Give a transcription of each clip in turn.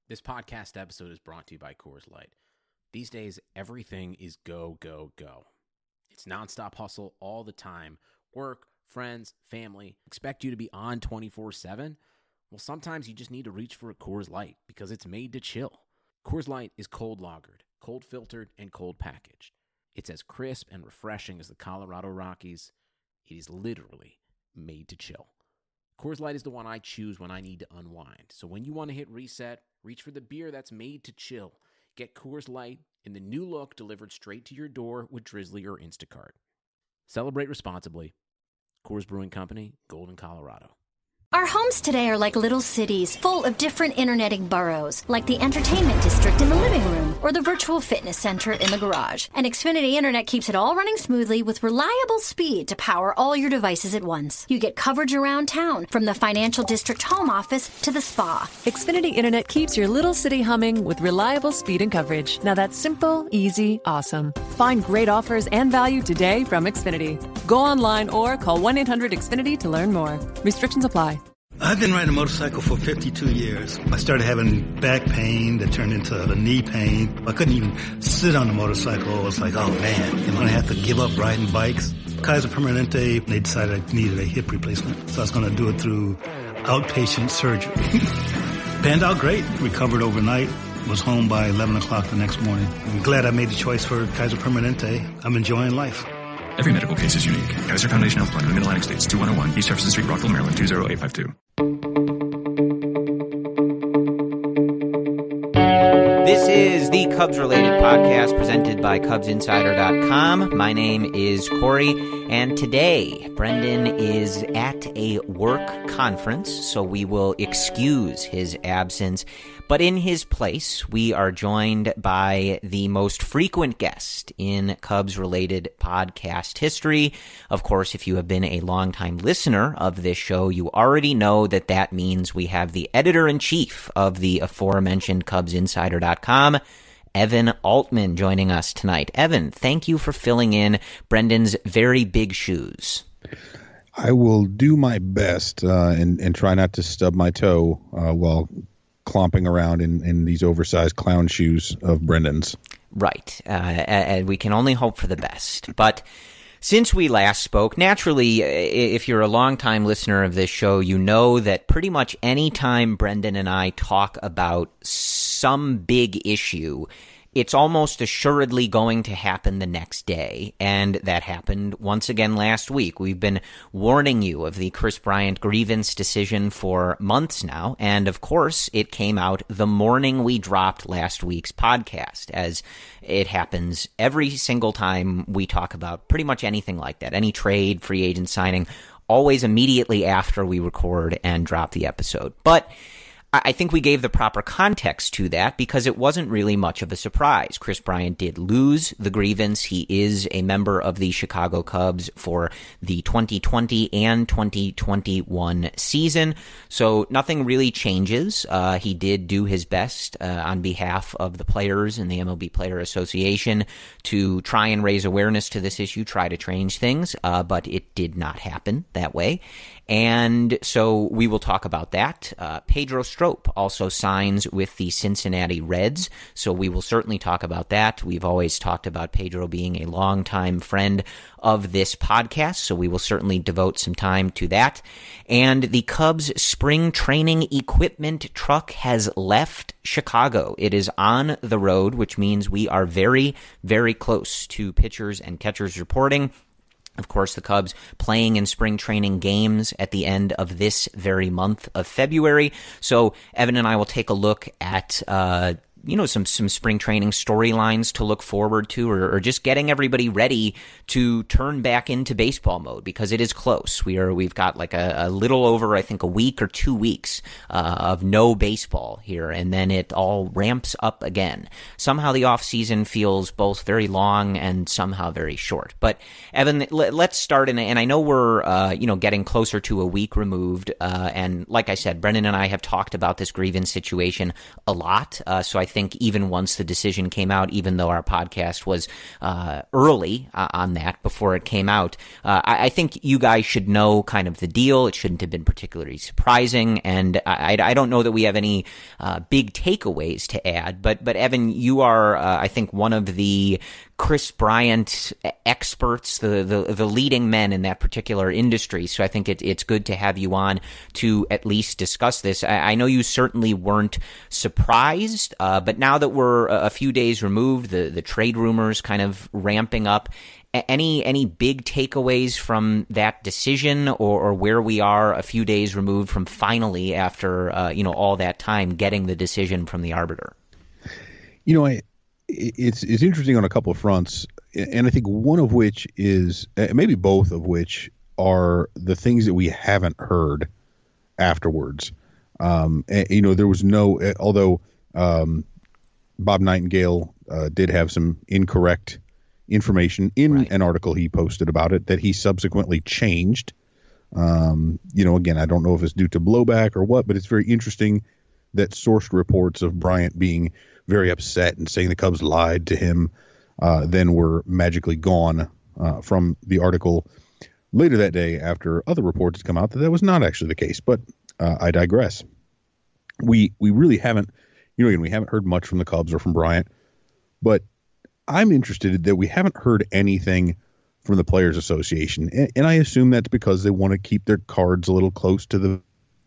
This podcast episode is brought to you by Coors Light. These days, everything is go, go, go. It's nonstop hustle all the time. Work, friends, family, expect you to be on 24/7. Well, sometimes you just need to reach for a Coors Light because it's made to chill. Coors Light is cold lagered, cold filtered, and cold packaged. It's as crisp and refreshing as the Colorado Rockies. It is literally made to chill. Coors Light is the one I choose when I need to unwind. So when you want to hit reset, reach for the beer that's made to chill. Get Coors Light in the new look delivered straight to your door with Drizzly or Instacart. Celebrate responsibly. Coors Brewing Company, Golden, Colorado. Our homes today are like little cities, full of different interneting boroughs, like the entertainment district in the living room or the virtual fitness center in the garage. And Xfinity Internet keeps it all running smoothly with reliable speed to power all your devices at once. You get coverage around town, from the financial district home office to the spa. Xfinity Internet keeps your little city humming with reliable speed and coverage. Now that's simple, easy, awesome. Find great offers and value today from Xfinity. Go online or call 1-800-XFINITY to learn more. Restrictions apply. I've been riding a motorcycle for 52 years. I started having back pain that turned into a knee pain. I couldn't even sit on the motorcycle. I was like, oh man, am I going to have to give up riding bikes? Kaiser Permanente, they decided I needed a hip replacement. So I was going to do it through outpatient surgery. Panned out great. Recovered overnight. Was home by 11 o'clock the next morning. I'm glad I made the choice for Kaiser Permanente. I'm enjoying life. Every medical case is unique. Kaiser Foundation Health Plan of the Mid-Atlantic States, 2101 East Jefferson Street, Rockville, Maryland, 20852. This is the Cubs-related podcast presented by CubsInsider.com. My name is Corey, and today Brendan is at a work conference, so we will excuse his absence. But in his place, we are joined by the most frequent guest in Cubs-related podcast history. Of course, if you have been a longtime listener of this show, you already know that that means we have the editor-in-chief of the aforementioned CubsInsider.com, Evan Altman, joining us tonight. Evan, thank you for filling in Brendan's very big shoes. I will do my best and try not to stub my toe while clomping around in these oversized clown shoes of Brendan's. Right. We can only hope for the best. But since we last spoke, naturally, if you're a longtime listener of this show, you know that pretty much any time Brendan and I talk about some big issue, it's almost assuredly going to happen the next day, and that happened once again last week. We've been warning you of the Kris Bryant grievance decision for months now, and of course, it came out the morning we dropped last week's podcast, as it happens every single time we talk about pretty much anything like that, any trade, free agent signing, always immediately after we record and drop the episode. But I think we gave the proper context to that because it wasn't really much of a surprise. Kris Bryant did lose the grievance. He is a member of the Chicago Cubs for the 2020 and 2021 season, so nothing really changes. He did do his best on behalf of the players and the MLB Player Association to try and raise awareness to this issue, try to change things, but it did not happen that way. And so we will talk about that. Pedro Strop also signs with the Cincinnati Reds, so we will certainly talk about that. We've always talked about Pedro being a longtime friend of this podcast, so we will certainly devote some time to that. And the Cubs spring training equipment truck has left Chicago. It is on the road, which means we are very, very close to pitchers and catchers reporting. Of course, the Cubs playing in spring training games at the end of this very month of February. So Evan and I will take a look at some spring training storylines to look forward to, or just getting everybody ready to turn back into baseball mode, because it is close. We've got like a little over, I think, a week or 2 weeks of no baseball here, and then it all ramps up again. Somehow the off season feels both very long and somehow very short. But Evan, let's start, and I know we're getting closer to a week removed, and like I said, Brendan and I have talked about this grievance situation a lot, so I think even once the decision came out, even though our podcast was early on that before it came out, I think you guys should know kind of the deal. It shouldn't have been particularly surprising, and I don't know that we have any big takeaways to add. But Evan, you are, I think, one of the Kris Bryant experts, the leading men in that particular industry. So I think it's good to have you on to at least discuss this. I know you certainly weren't surprised, but now that we're a few days removed, the trade rumors kind of ramping up. Any big takeaways from that decision, or where we are a few days removed from finally, after all that time, getting the decision from the arbiter? It's interesting on a couple of fronts, and I think one of which is, maybe both of which, are the things that we haven't heard afterwards. There was no, although Bob Nightingale did have some incorrect information in an article he posted about it that he subsequently changed. Again, I don't know if it's due to blowback or what, but it's very interesting that sourced reports of Bryant being very upset and saying the Cubs lied to him then were magically gone from the article later that day, after other reports had come out that was not actually the case. But I digress. We really haven't, we haven't heard much from the Cubs or from Bryant, but I'm interested that we haven't heard anything from the Players Association, and I assume that's because they want to keep their cards a little close to the.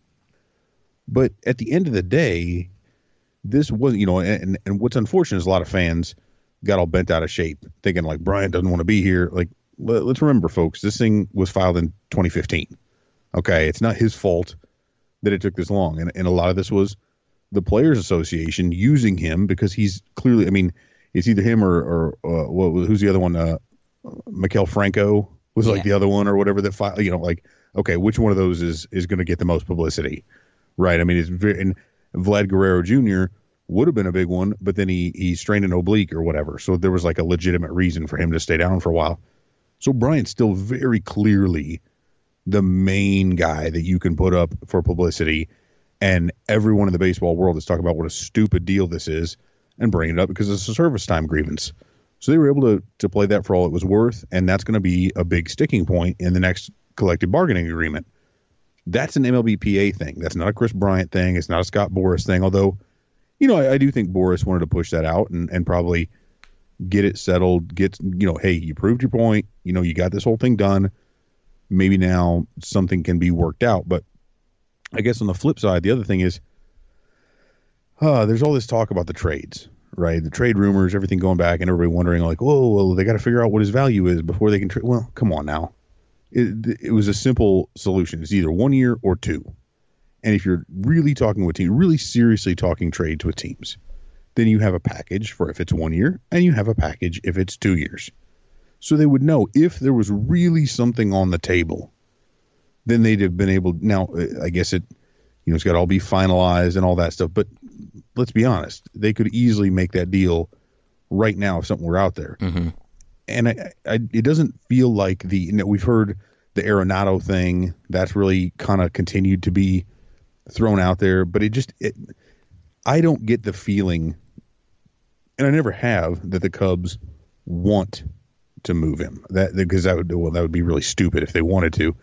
But at the end of the day, this was, and what's unfortunate is a lot of fans got all bent out of shape, thinking like Bryant doesn't want to be here. Like, let's remember, folks, this thing was filed in 2015. Okay, it's not his fault that it took this long, and a lot of this was the Players Association using him because he's clearly, it's either him or who's the other one? Maikel Franco was like the other one or whatever that filed. Okay, which one of those is going to get the most publicity, right? It's very, and Vlad Guerrero Jr. would have been a big one, but then he strained an oblique or whatever, so there was like a legitimate reason for him to stay down for a while. So Bryant's still very clearly the main guy that you can put up for publicity, and everyone in the baseball world is talking about what a stupid deal this is and bringing it up because it's a service time grievance. So they were able to play that for all it was worth, and that's going to be a big sticking point in the next collective bargaining agreement. That's an MLBPA thing. That's not a Kris Bryant thing. It's not a Scott Boras thing, although, I do think Boras wanted to push that out and probably get it settled, hey, you proved your point, you got this whole thing done. Maybe now something can be worked out. But I guess on the flip side, the other thing is, there's all this talk about the trades, right? The trade rumors, everything going back, and everybody wondering like, oh, well, they got to figure out what his value is before they can trade. Well, come on now. It was a simple solution. It's either 1 year or 2. And if you're really talking with teams, really seriously talking trades with teams, then you have a package for if it's 1 year, and you have a package if it's 2 years. So they would know if there was really something on the table, then they'd have been able. Now, I guess it's got to all be finalized and all that stuff. But let's be honest, they could easily make that deal right now if something were out there. Mm-hmm. And it doesn't feel like we've heard the Arenado thing that's really kind of continued to be thrown out there, but I don't get the feeling, and I never have, that the Cubs want to move him. Because that would be really stupid if they wanted to.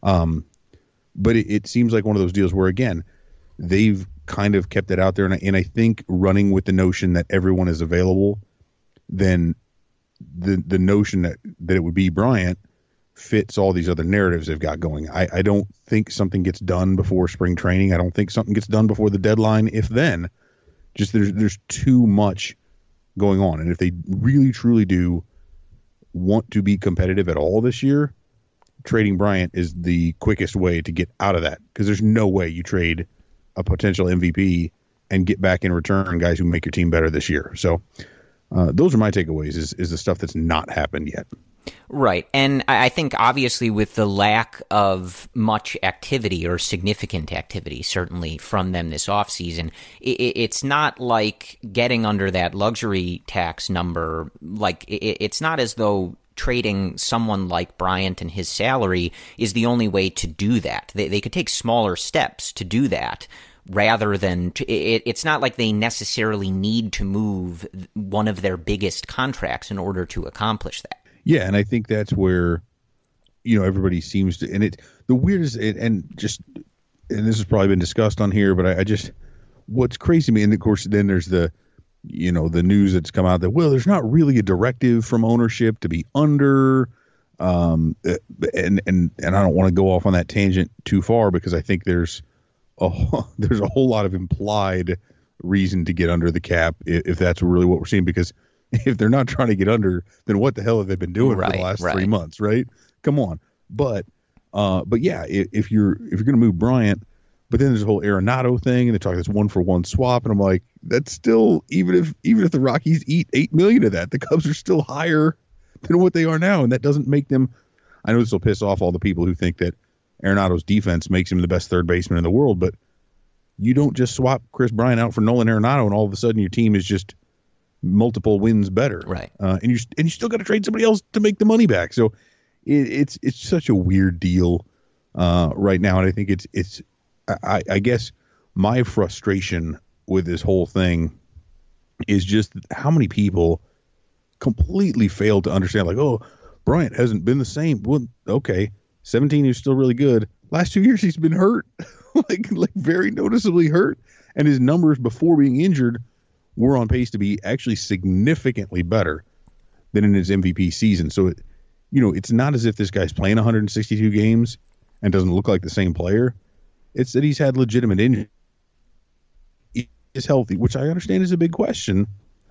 But it seems like one of those deals where, again, they've kind of kept it out there, and I think running with the notion that everyone is available, then the notion that it would be Bryant fits all these other narratives they've got going. I don't think something gets done before spring training. I don't think something gets done before the deadline, if then. Just there's too much going on. And if they really, truly do want to be competitive at all this year, trading Bryant is the quickest way to get out of that, because there's no way you trade a potential MVP and get back in return guys who make your team better this year. So those are my takeaways, is the stuff that's not happened yet. Right. And I think obviously with the lack of much activity or significant activity, certainly from them this offseason, it's not like getting under that luxury tax number. Like it's not as though trading someone like Bryant and his salary is the only way to do that. They could take smaller steps to do that rather than it's not like they necessarily need to move one of their biggest contracts in order to accomplish that. Yeah, and I think that's where, everybody seems to, and the weirdest, and this has probably been discussed on here, but I just, what's crazy to me, and of course then there's the news that's come out that, well, there's not really a directive from ownership to be under, and I don't want to go off on that tangent too far, because I think there's a whole lot of implied reason to get under the cap if that's really what we're seeing, because if they're not trying to get under, then what the hell have they been doing for the last 3 months, right? Come on. But yeah, if you're going to move Bryant, but then there's a whole Arenado thing, and they talk this 1-for-1 swap, and I'm like, that's still, even if the Rockies eat $8 million of that, the Cubs are still higher than what they are now, and that doesn't make them. I know this will piss off all the people who think that Arenado's defense makes him the best third baseman in the world, but you don't just swap Chris Bryant out for Nolan Arenado, and all of a sudden your team is just multiple wins better, right? And you still got to trade somebody else to make the money back. So it's such a weird deal right now, and I think it's. I guess my frustration with this whole thing is just how many people completely fail to understand, like, oh, Bryant hasn't been the same. Well, okay, 17, he's still really good. Last 2 years, he's been hurt, like very noticeably hurt. And his numbers before being injured were on pace to be actually significantly better than in his MVP season. So, it's not as if this guy's playing 162 games and doesn't look like the same player. It's that he's had legitimate injury. He is healthy, which I understand is a big question.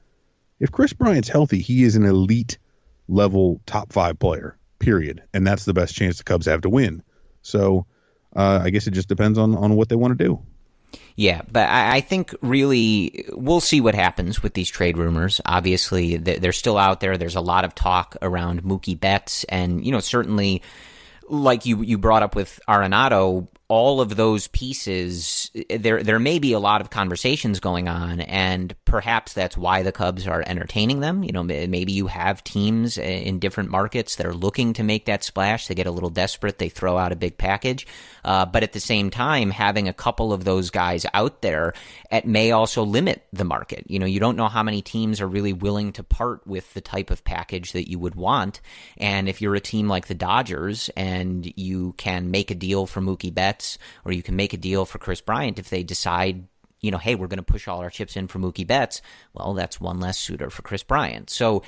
If Chris Bryant's healthy, he is an elite level top 5 player, period. And that's the best chance the Cubs have to win. So I guess it just depends on what they want to do. Yeah, but I think really we'll see what happens with these trade rumors. Obviously, they're still out there. There's a lot of talk around Mookie Betts, and certainly, like you brought up with Arenado, all of those pieces, there may be a lot of conversations going on, and perhaps that's why the Cubs are entertaining them. Maybe you have teams in different markets that are looking to make that splash. They get a little desperate. They throw out a big package. But at the same time, having a couple of those guys out there, it may also limit the market. You don't know how many teams are really willing to part with the type of package that you would want. And if you're a team like the Dodgers and you can make a deal for Mookie Betts, or you can make a deal for Chris Bryant, if they decide, hey, we're going to push all our chips in for Mookie Betts, well, that's one less suitor for Chris Bryant. So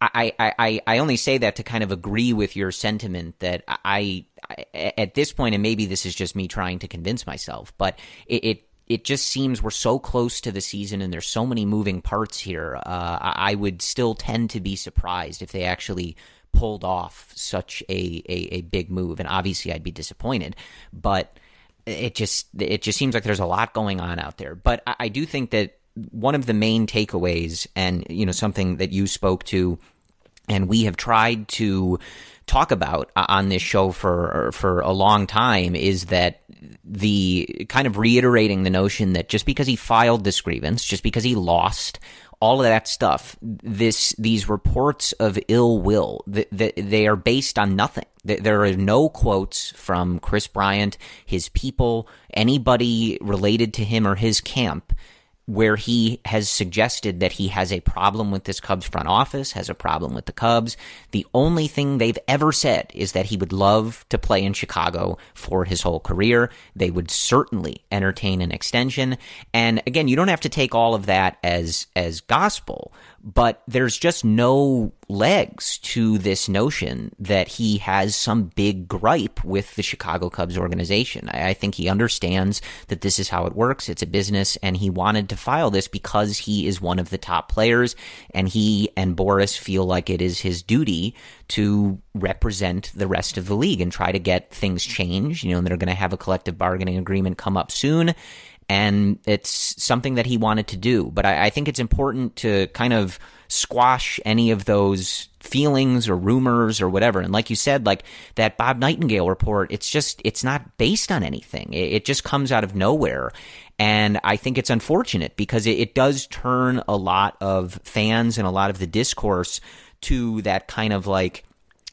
I only say that to kind of agree with your sentiment that I at this point, and maybe this is just me trying to convince myself, but it just seems we're so close to the season and there's so many moving parts here. I would still tend to be surprised if they actually pulled off such a big move, and obviously I'd be disappointed, but it just seems like there's a lot going on out there. But I do think that one of the main takeaways, and something that you spoke to and we have tried to talk about on this show for a long time, is that the kind of reiterating the notion that just because he filed this grievance, just because he lost, all of that stuff, these reports of ill will, they are based on nothing. There are no quotes from Chris Bryant, his people, anybody related to him or his camp, where he has suggested that he has a problem with this Cubs front office, has a problem with the Cubs. The only thing they've ever said is that he would love to play in Chicago for his whole career. They would certainly entertain an extension. And again, you don't have to take all of that as gospel, but there's just no legs to this notion that he has some big gripe with the Chicago Cubs organization. I think he understands that this is how it works. It's a business, and he wanted to file this because he is one of the top players, and he and Boris feel like it is his duty to represent the rest of the league and try to get things changed. They're going to have a collective bargaining agreement come up soon, and it's something that he wanted to do. But I think it's important to kind of squash any of those feelings or rumors or whatever. And like you said, like that Bob Nightingale report, it's not based on anything. It just comes out of nowhere. And I think it's unfortunate because it does turn a lot of fans and a lot of the discourse to that kind of like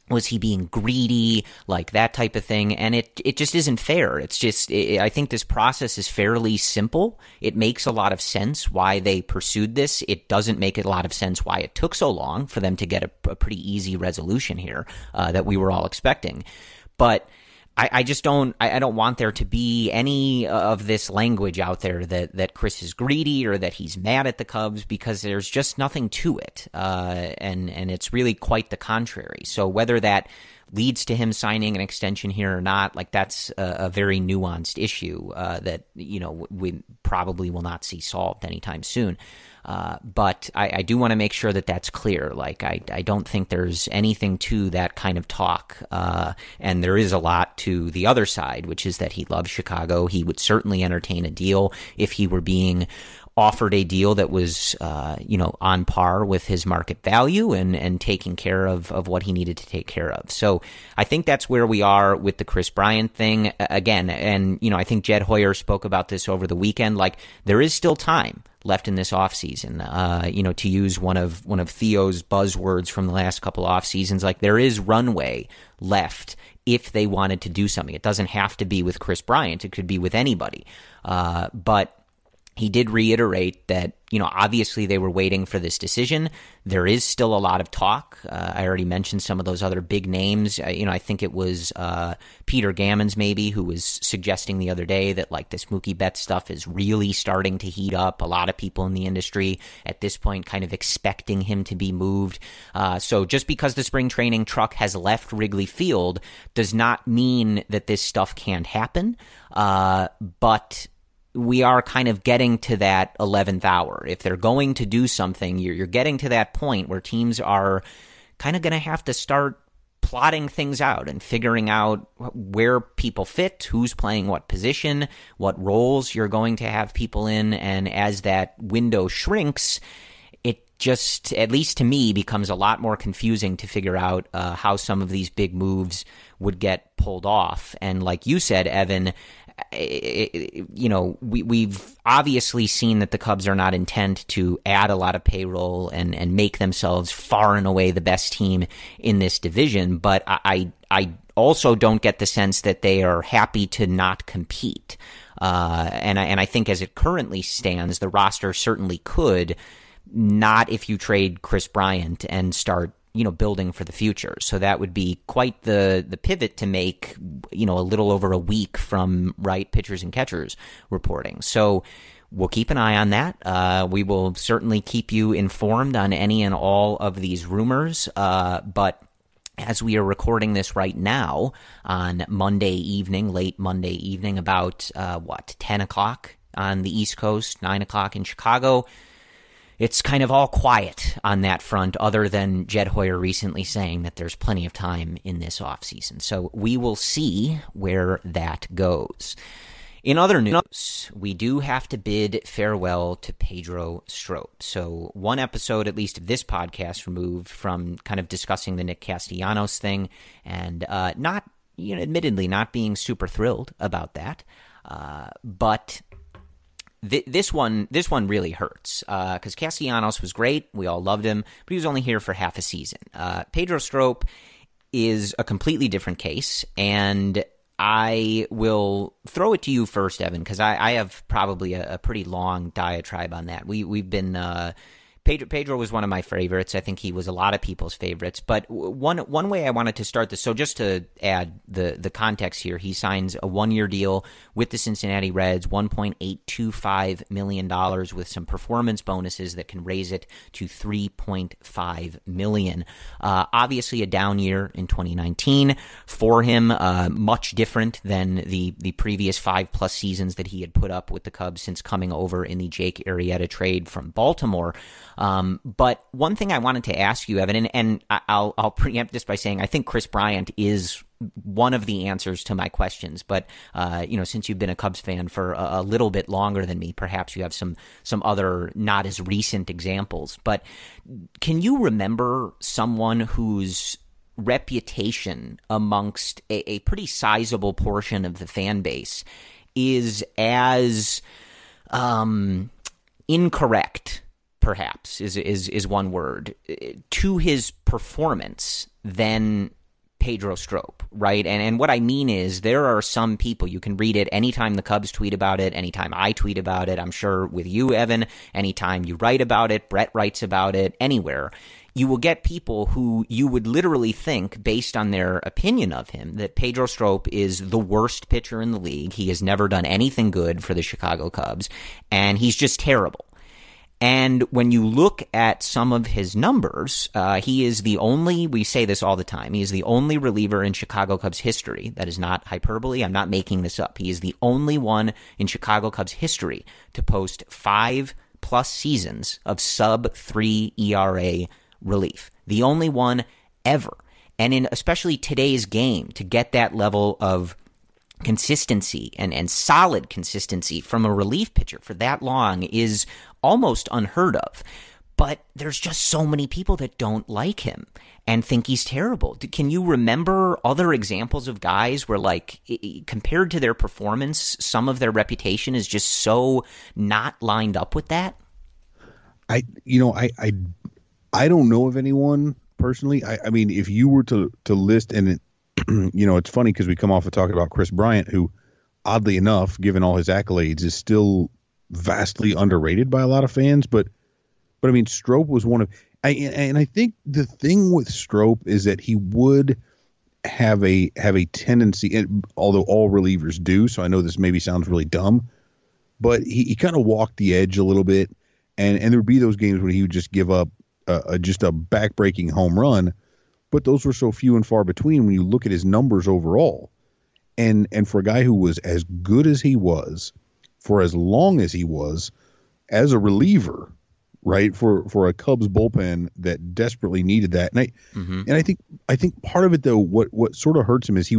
Was he being greedy, like that type of thing? And it just isn't fair. It's just, I think this process is fairly simple. It makes a lot of sense why they pursued this. It doesn't make a lot of sense why it took so long for them to get a pretty easy resolution here that we were all expecting. But I just don't want there to be any of this language out there that Chris is greedy or that he's mad at the Cubs, because there's just nothing to it. And it's really quite the contrary. So whether that leads to him signing an extension here or not, like that's a very nuanced issue that, we probably will not see solved anytime soon. But I do want to make sure that that's clear. Like, I don't think there's anything to that kind of talk. And there is a lot to the other side, which is that he loves Chicago. He would certainly entertain a deal if he were being offered a deal that was, on par with his market value and taking care of what he needed to take care of. So I think that's where we are with the Kris Bryant thing again. And, I think Jed Hoyer spoke about this over the weekend. Like, there is still time left in this offseason, to use one of Theo's buzzwords from the last couple off seasons. Like, there is runway left if they wanted to do something. It doesn't have to be with Kris Bryant. It could be with anybody. But he did reiterate that, obviously they were waiting for this decision. There is still a lot of talk. I already mentioned some of those other big names. I think it was Peter Gammons maybe who was suggesting the other day that like this Mookie Betts stuff is really starting to heat up. A lot of people in the industry at this point kind of expecting him to be moved. So just because the spring training truck has left Wrigley Field does not mean that this stuff can't happen. But we are kind of getting to that 11th hour. If they're going to do something, you're getting to that point where teams are kind of going to have to start plotting things out and figuring out where people fit, who's playing what position, what roles you're going to have people in. And as that window shrinks, it just, at least to me, becomes a lot more confusing to figure out how some of these big moves would get pulled off. And like you said, Evan, we've obviously seen that the Cubs are not intent to add a lot of payroll and make themselves far and away the best team in this division. But I also don't get the sense that they are happy to not compete. And I think as it currently stands, the roster certainly could, not if you trade Kris Bryant and start building for the future. So that would be quite the pivot to make, a little over a week from pitchers and catchers reporting. So we'll keep an eye on that. We will certainly keep you informed on any and all of these rumors. But as we are recording this right now on Monday evening, late Monday evening, about 10 o'clock on the East Coast, 9 o'clock in Chicago, it's kind of all quiet on that front, other than Jed Hoyer recently saying that there's plenty of time in this offseason. So we will see where that goes. In other news, we do have to bid farewell to Pedro Strop. So one episode, at least of this podcast, removed from kind of discussing the Nick Castellanos thing, and admittedly not being super thrilled about that. But this one really hurts because Castellanos was great. We all loved him, but he was only here for half a season. Pedro Strop is a completely different case, and I will throw it to you first, Evan, because I have probably a pretty long diatribe on that. We've been Pedro was one of my favorites. I think he was a lot of people's favorites. But one way I wanted to start this, so just to add the context here, he signs a 1-year deal with the Cincinnati Reds, $1.825 million with some performance bonuses that can raise it to $3.5 million. Obviously a down year in 2019 for him, much different than the previous 5+ seasons that he had put up with the Cubs since coming over in the Jake Arrieta trade from Baltimore. But one thing I wanted to ask you, Evan, and I'll preempt this by saying I think Kris Bryant is one of the answers to my questions. But since you've been a Cubs fan for a little bit longer than me, perhaps you have some other not as recent examples. But can you remember someone whose reputation amongst a pretty sizable portion of the fan base is as incorrect, perhaps is one word, to his performance than Pedro Strop, right? And what I mean is there are some people, you can read it anytime the Cubs tweet about it, anytime I tweet about it, I'm sure with you, Evan, anytime you write about it, Brett writes about it, anywhere, you will get people who you would literally think, based on their opinion of him, that Pedro Strop is the worst pitcher in the league. He has never done anything good for the Chicago Cubs, and he's just terrible. And when you look at some of his numbers, he is the only, we say this all the time, he is the only reliever in Chicago Cubs history. That is not hyperbole. I'm not making this up. He is the only one in Chicago Cubs history to post 5+ seasons of sub-3 ERA relief. The only one ever. And in especially today's game, to get that level of consistency and solid consistency from a relief pitcher for that long is almost unheard of. But there's just so many people that don't like him and think he's terrible. Can you remember other examples of guys where, like, compared to their performance, some of their reputation is just so not lined up with that? I don't know of anyone personally. I mean, if you were to list, and it, it's funny because we come off of talking about Chris Bryant, who, oddly enough, given all his accolades, is still vastly underrated by a lot of fans. But I mean, Strop was one of, and I think the thing with Strop is that he would have a tendency, and although all relievers do, so I know this maybe sounds really dumb, but he kind of walked the edge a little bit, and there would be those games when he would just give up just a back-breaking home run, but those were so few and far between when you look at his numbers overall. And for a guy who was as good as he was, for as long as he was, as a reliever, right, for a Cubs bullpen that desperately needed that. And I think part of it, though, what sort of hurts him is he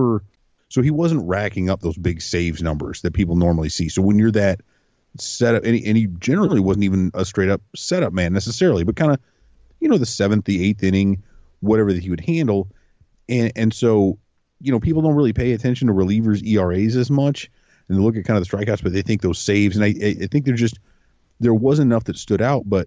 wasn't racking up those big saves numbers that people normally see. So when you're that setup, and he generally wasn't even a straight up setup man necessarily, but kind of, the 7th, the 8th inning, whatever that he would handle. And so, people don't really pay attention to relievers' ERAs as much, and they look at kind of the strikeouts, but they think those saves, and I think there was enough that stood out. But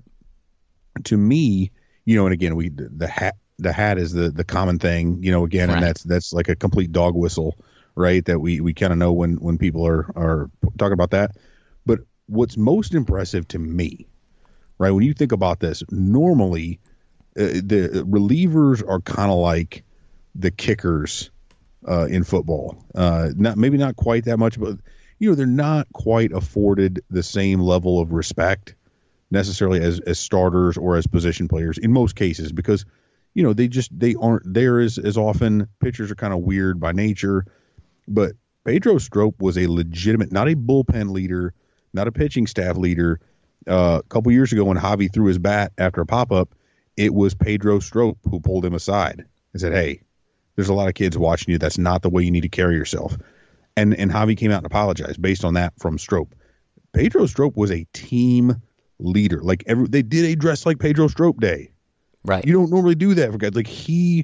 to me, and again, the hat is the common thing, again, right. And that's like a complete dog whistle, right? That we kind of know when people are talking about that. But what's most impressive to me, right, when you think about this, normally the relievers are kind of like the kickers in football. Maybe not quite that much, but they're not quite afforded the same level of respect necessarily as starters or as position players in most cases, because they aren't there as often. Pitchers are kind of weird by nature. But Pedro Strop was a legitimate, not a bullpen leader, not a pitching staff leader. A couple years ago when Javi threw his bat after a pop-up, it was Pedro Strop who pulled him aside and said, "Hey, there's a lot of kids watching you. That's not the way you need to carry yourself." And Javi came out and apologized based on that from Strop. Pedro Strop was a team leader. Like they did a Dress Like Pedro Strop day. Right. You don't normally do that for guys. Like he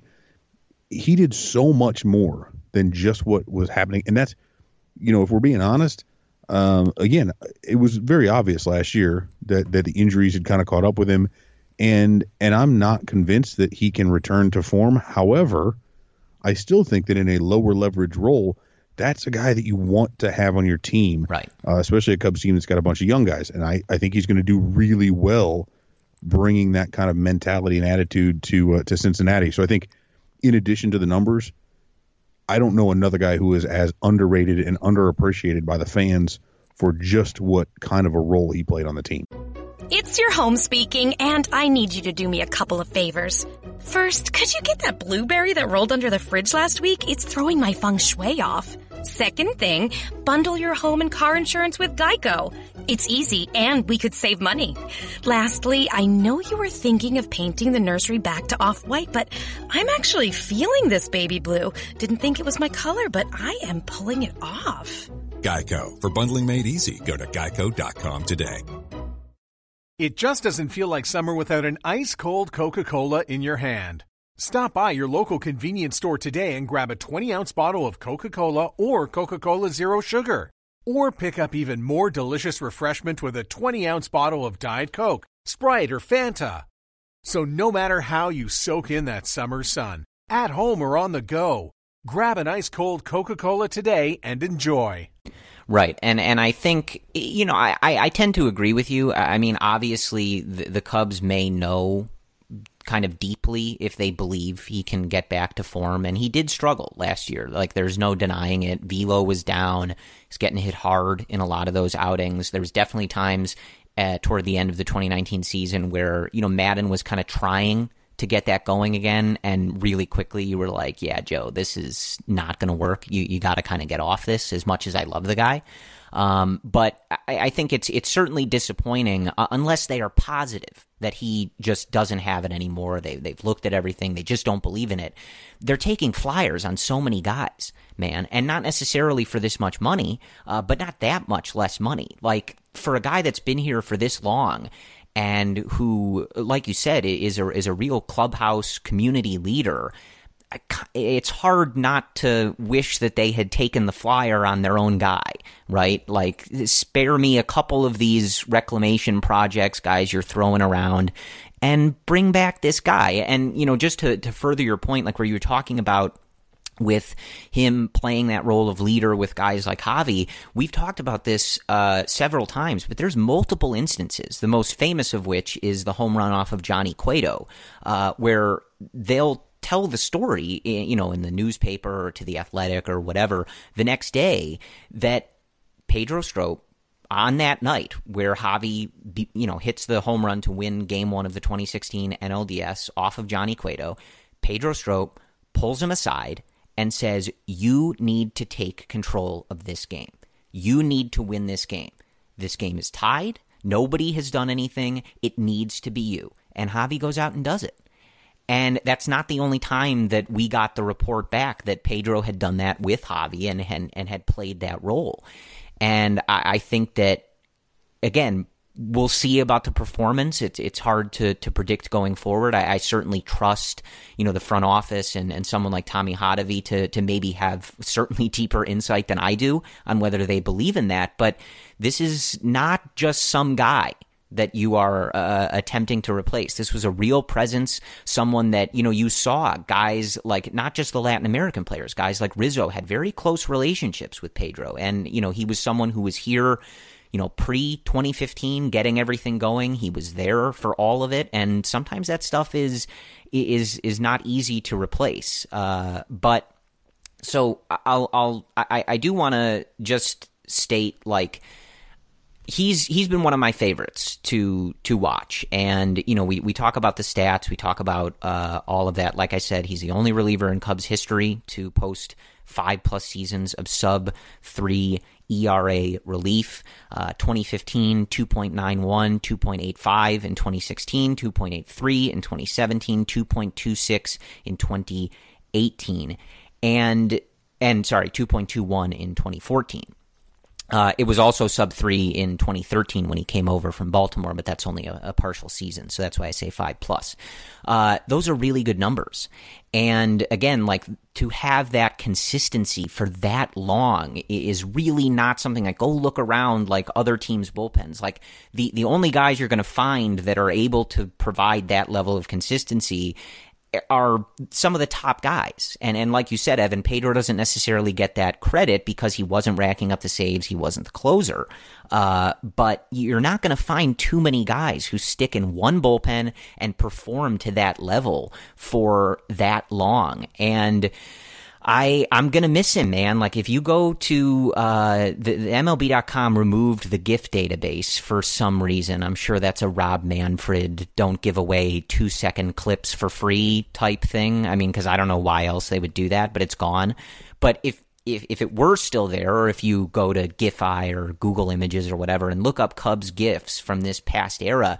did so much more than just what was happening. And that's, if we're being honest, again, it was very obvious last year that the injuries had kind of caught up with him. And I'm not convinced that he can return to form. However, I still think that in a lower leverage role, that's a guy that you want to have on your team, right? Especially a Cubs team that's got a bunch of young guys. And I think he's going to do really well bringing that kind of mentality and attitude to Cincinnati. So I think in addition to the numbers, I don't know another guy who is as underrated and underappreciated by the fans for just what kind of a role he played on the team. It's your home speaking, and I need you to do me a couple of favors. First, could you get that blueberry that rolled under the fridge last week? It's throwing my feng shui off. Second thing, bundle your home and car insurance with Geico. It's easy, and we could save money. Lastly, I know you were thinking of painting the nursery back to off-white, but I'm actually feeling this baby blue. Didn't think it was my color, but I am pulling it off. Geico. For bundling made easy, go to geico.com today. It just doesn't feel like summer without an ice-cold Coca-Cola in your hand. Stop by your local convenience store today and grab a 20-ounce bottle of Coca-Cola or Coca-Cola Zero Sugar. Or pick up even more delicious refreshment with a 20-ounce bottle of Diet Coke, Sprite, or Fanta. So no matter how you soak in that summer sun, at home or on the go. Grab an ice-cold Coca-Cola today and enjoy. Right. And I think, I tend to agree with you. I mean, obviously, the Cubs may know kind of deeply if they believe he can get back to form. And he did struggle last year. Like, there's no denying it. Velo was down. He's getting hit hard in a lot of those outings. There was definitely times toward the end of the 2019 season where, Madden was kind of trying to get that going again, and really quickly you were like, yeah, Joe, this is not going to work. You got to kind of get off this, as much as I love the guy. But I think it's certainly disappointing unless they are positive that he just doesn't have it anymore. They've looked at everything. They just don't believe in it. They're taking flyers on so many guys, man, and not necessarily for this much money, but not that much less money. Like, for a guy that's been here for this long and who, like you said, is a real clubhouse community leader, it's hard not to wish that they had taken the flyer on their own guy, right? Like, spare me a couple of these reclamation projects, guys, you're throwing around, and bring back this guy. And, just to further your point, like where you were talking about with him playing that role of leader with guys like Javi, we've talked about this several times, but there's multiple instances, the most famous of which is the home run off of Johnny Cueto, where they'll tell the story, in the newspaper or to The Athletic or whatever the next day, that Pedro Strop, on that night where Javi, hits the home run to win Game 1 of the 2016 NLDS off of Johnny Cueto, Pedro Strop pulls him aside and says, you need to take control of this game. You need to win this game. This game is tied. Nobody has done anything. It needs to be you. And Javi goes out and does it. And that's not the only time that we got the report back that Pedro had done that with Javi and had played that role. And I think that, again, we'll see about the performance. It's hard to predict going forward. I certainly trust, the front office and someone like Tommy Hotovy to maybe have certainly deeper insight than I do on whether they believe in that. But this is not just some guy that you are attempting to replace. This was a real presence, someone that, you saw guys like, not just the Latin American players, guys like Rizzo had very close relationships with Pedro. And, he was someone who was here, pre-2015, getting everything going. He was there for all of it. And sometimes that stuff is not easy to replace. But so I do want to just state, like, he's been one of my favorites to watch. And, we talk about the stats, we talk about all of that. Like I said, he's the only reliever in Cubs history to post 5+ seasons of sub-3 ERA relief. 2015, 2.91, 2.85 in 2016, 2.83 in 2017, 2.26 in 2018, and 2.21 in 2014. It was also sub-3 in 2013 when he came over from Baltimore, but that's only a partial season, so that's why I say 5+. Those are really good numbers. And again, like, to have that consistency for that long is really not something like, go look around like other teams' bullpens. Like, the only guys you're going to find that are able to provide that level of consistency are some of the top guys. And like you said, Evan, Pedro doesn't necessarily get that credit because he wasn't racking up the saves. He wasn't the closer. But you're not going to find too many guys who stick in one bullpen and perform to that level for that long. And I'm going to miss him, man. Like, if you go to the MLB.com removed the GIF database for some reason. I'm sure that's a Rob Manfred don't give away 2-second clips for free type thing. I mean, because I don't know why else they would do that, but it's gone. But if it were still there, or if you go to GIFI or Google Images or whatever and look up Cubs GIFs from this past era,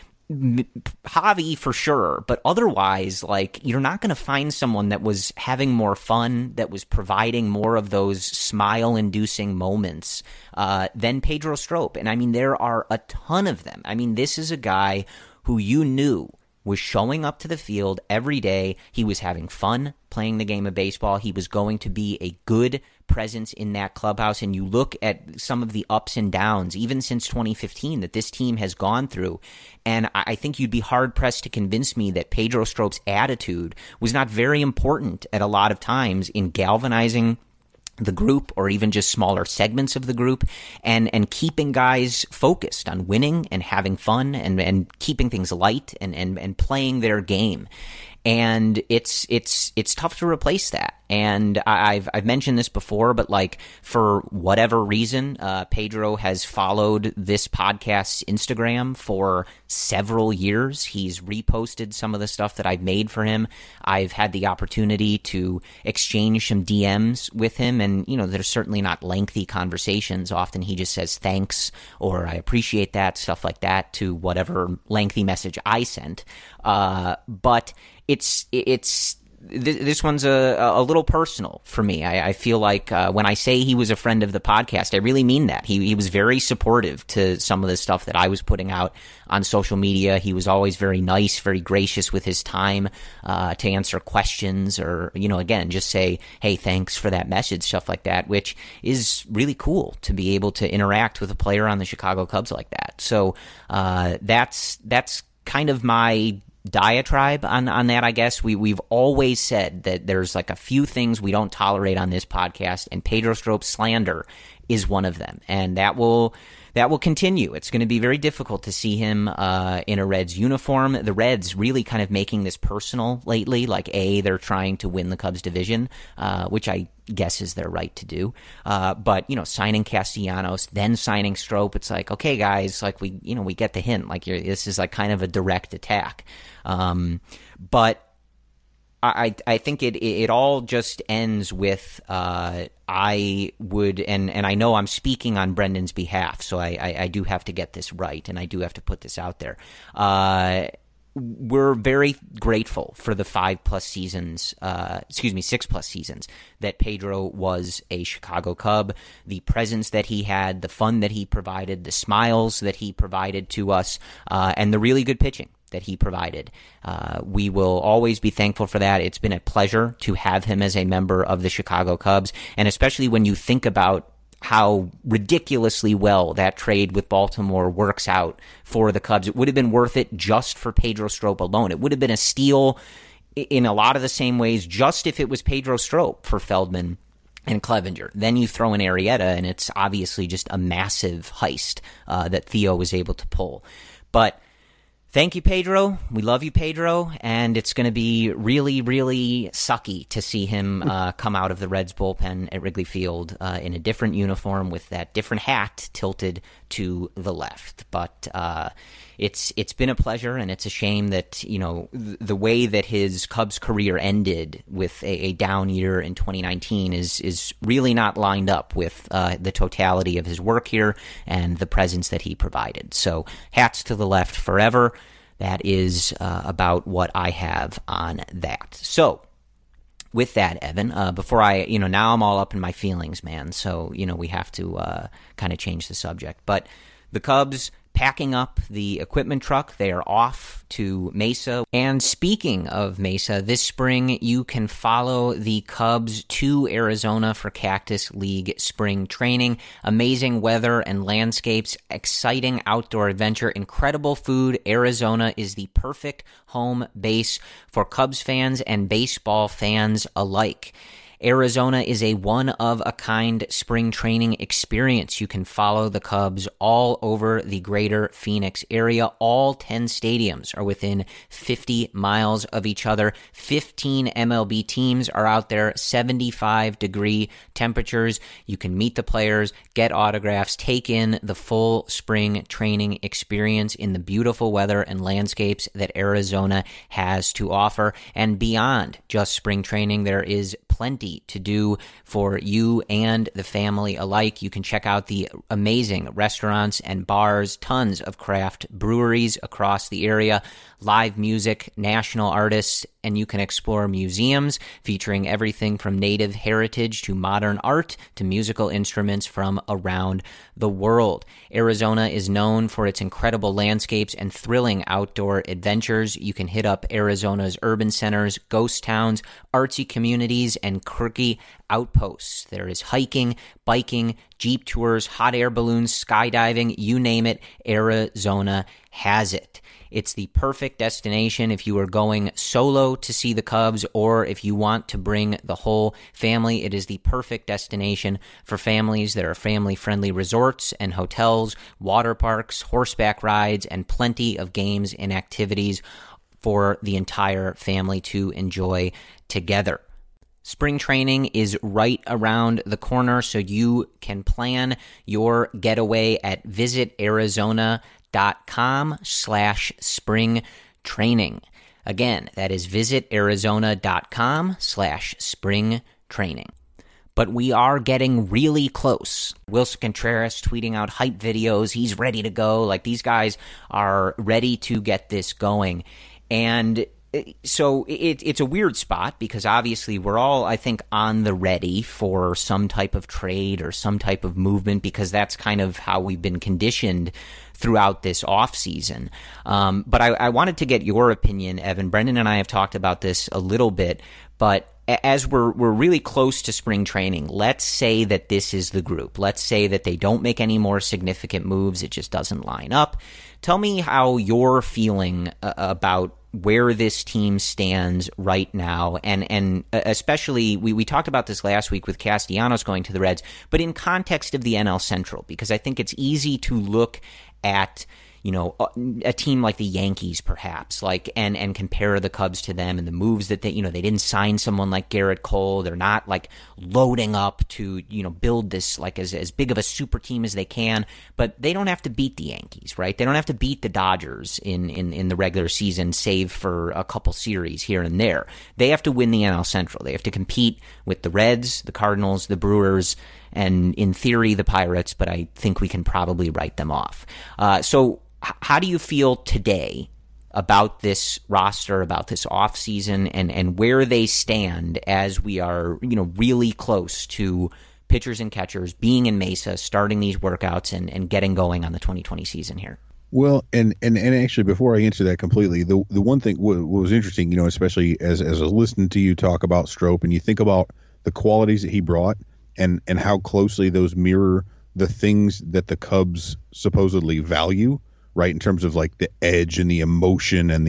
Javi for sure, but otherwise, like, you're not going to find someone that was having more fun, that was providing more of those smile-inducing moments than Pedro Strop. And I mean, there are a ton of them. I mean, this is a guy who you knew was showing up to the field every day. He was having fun playing the game of baseball. He was going to be a good presence in that clubhouse. And you look at some of the ups and downs, even since 2015, that this team has gone through. And I think you'd be hard-pressed to convince me that Pedro Strop's attitude was not very important at a lot of times in galvanizing the group, or even just smaller segments of the group, and keeping guys focused on winning and having fun and keeping things light and playing their game. And it's tough to replace that. And I've mentioned this before, but like, for whatever reason, Pedro has followed this podcast's Instagram for several years. He's reposted some of the stuff that I've made for him. I've had the opportunity to exchange some DMs with him, and there's certainly not lengthy conversations. Often he just says thanks, or I appreciate that, stuff like that, to whatever lengthy message I sent. But this one's a little personal for me. I feel like when I say he was a friend of the podcast, I really mean that. He was very supportive to some of the stuff that I was putting out on social media. He was always very nice, very gracious with his time to answer questions, or, again, just say, hey, thanks for that message, stuff like that, which is really cool to be able to interact with a player on the Chicago Cubs like that. So that's kind of my diatribe on that, I guess. We've always said that there's like a few things we don't tolerate on this podcast, and Pedro Strop slander is one of them, and that will continue. It's going to be very difficult to see him in a Reds uniform. The Reds really kind of making this personal lately, like they're trying to win the Cubs division, which I guess is their right to do. But signing Castellanos, then signing Strop, it's like, okay, guys, like we get the hint. Like this is like kind of a direct attack. But I think it all just ends with I would, and I know I'm speaking on Brendan's behalf, so I do have to get this right, and I do have to put this out there. We're very grateful for the 6+ seasons that Pedro was a Chicago Cub, the presence that he had, the fun that he provided, the smiles that he provided to us, and the really good pitching that he provided. We will always be thankful for that. It's been a pleasure to have him as a member of the Chicago Cubs, and especially when you think about how ridiculously well that trade with Baltimore works out for the Cubs. It would have been worth it just for Pedro Strop alone. It would have been a steal in a lot of the same ways just if it was Pedro Strop for Feldman and Clevenger. Then you throw in Arrieta, and it's obviously just a massive heist that Theo was able to pull. But thank you, Pedro. We love you, Pedro. And it's going to be really, really sucky to see him come out of the Reds bullpen at Wrigley Field in a different uniform with that different hat tilted to the left. But it's been a pleasure, and it's a shame that, the way that his Cubs career ended with a down year in 2019 is really not lined up with the totality of his work here and the presence that he provided. So hats to the left forever. That is about what I have on that. So with that, Evan, before now I'm all up in my feelings, man. So, we have to kind of change the subject. But the Cubs packing up the equipment truck. They are off to Mesa. And speaking of Mesa, this spring you can follow the Cubs to Arizona for Cactus League spring training. Amazing weather and landscapes, exciting outdoor adventure, incredible food. Arizona is the perfect home base for Cubs fans and baseball fans alike. Arizona is a one-of-a-kind spring training experience. You can follow the Cubs all over the greater Phoenix area. All 10 stadiums are within 50 miles of each other. 15 MLB teams are out there, 75-degree temperatures. You can meet the players, get autographs, take in the full spring training experience in the beautiful weather and landscapes that Arizona has to offer. And beyond just spring training, there is plenty to do for you and the family alike. You can check out the amazing restaurants and bars, tons of craft breweries across the area, live music, national artists, and you can explore museums featuring everything from native heritage to modern art to musical instruments from around the world. Arizona is known for its incredible landscapes and thrilling outdoor adventures. You can hit up Arizona's urban centers, ghost towns, artsy communities, and quirky outposts. There is hiking, biking, jeep tours, hot air balloons, skydiving, you name it, Arizona has it. It's the perfect destination if you are going solo to see the Cubs or if you want to bring the whole family. It is the perfect destination for families. There are family-friendly resorts and hotels, water parks, horseback rides, and plenty of games and activities for the entire family to enjoy together. Spring training is right around the corner, so you can plan your getaway at visitarizona.com/spring training. Again, that is visitarizona.com/spring training. But we are getting really close. Wilson Contreras tweeting out hype videos. He's ready to go. Like, these guys are ready to get this going. And so it's a weird spot because obviously we're all, I think, on the ready for some type of trade or some type of movement because that's kind of how we've been conditioned throughout this offseason. But I wanted to get your opinion, Evan. Brendan and I have talked about this a little bit, but as we're really close to spring training, let's say that this is the group. Let's say that they don't make any more significant moves. It just doesn't line up. Tell me how you're feeling about where this team stands right now, and especially, we talked about this last week with Castellanos going to the Reds, but in context of the NL Central, because I think it's easy to look at, you know, a team like the Yankees, perhaps, like, and compare the Cubs to them and the moves that they didn't sign someone like Garrett Cole. They're not like loading up to, build this like as big of a super team as they can, but they don't have to beat the Yankees, right? They don't have to beat the Dodgers in the regular season, save for a couple series here and there. They have to win the NL Central. They have to compete with the Reds, the Cardinals, the Brewers, and in theory, the Pirates, but I think we can probably write them off. So how do you feel today about this roster, about this offseason, and where they stand as we are, really close to pitchers and catchers being in Mesa, starting these workouts and getting going on the 2020 season here? Well, and actually, before I answer that completely, the one thing what was interesting, especially as I was listening to you talk about Strop, and you think about the qualities that he brought and how closely those mirror the things that the Cubs supposedly value, right? In terms of like the edge and the emotion and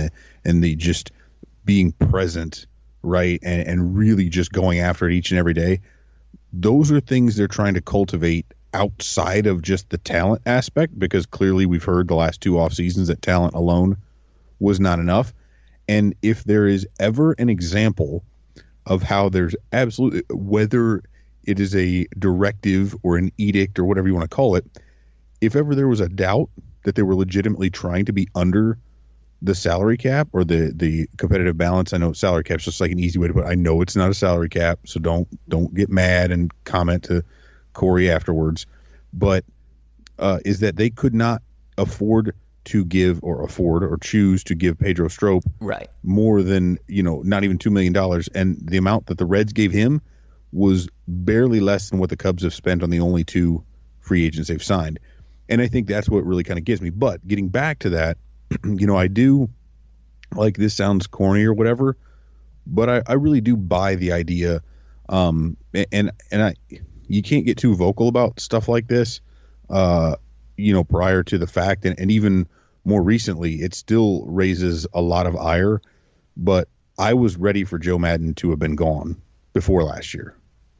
the just being present, right? And really just going after it each and every day. Those are things they're trying to cultivate outside of just the talent aspect, because clearly we've heard the last two off seasons that talent alone was not enough. And if there is ever an example of how there's absolutely, whether it is a directive or an edict or whatever you want to call it, if ever there was a doubt that they were legitimately trying to be under the salary cap or the competitive balance. I know salary cap's just like an easy way to put it. I know it's not a salary cap, so don't get mad and comment to Corey afterwards. But is that they could not afford to give or choose to give Pedro Strop right more than, not even $2 million. And the amount that the Reds gave him was barely less than what the Cubs have spent on the only two free agents they've signed. And I think that's what really kind of gets me. But getting back to that, I do, like, this sounds corny or whatever, but I really do buy the idea. You can't get too vocal about stuff like this, prior to the fact. And even more recently, it still raises a lot of ire. But I was ready for Joe Maddon to have been gone before last year.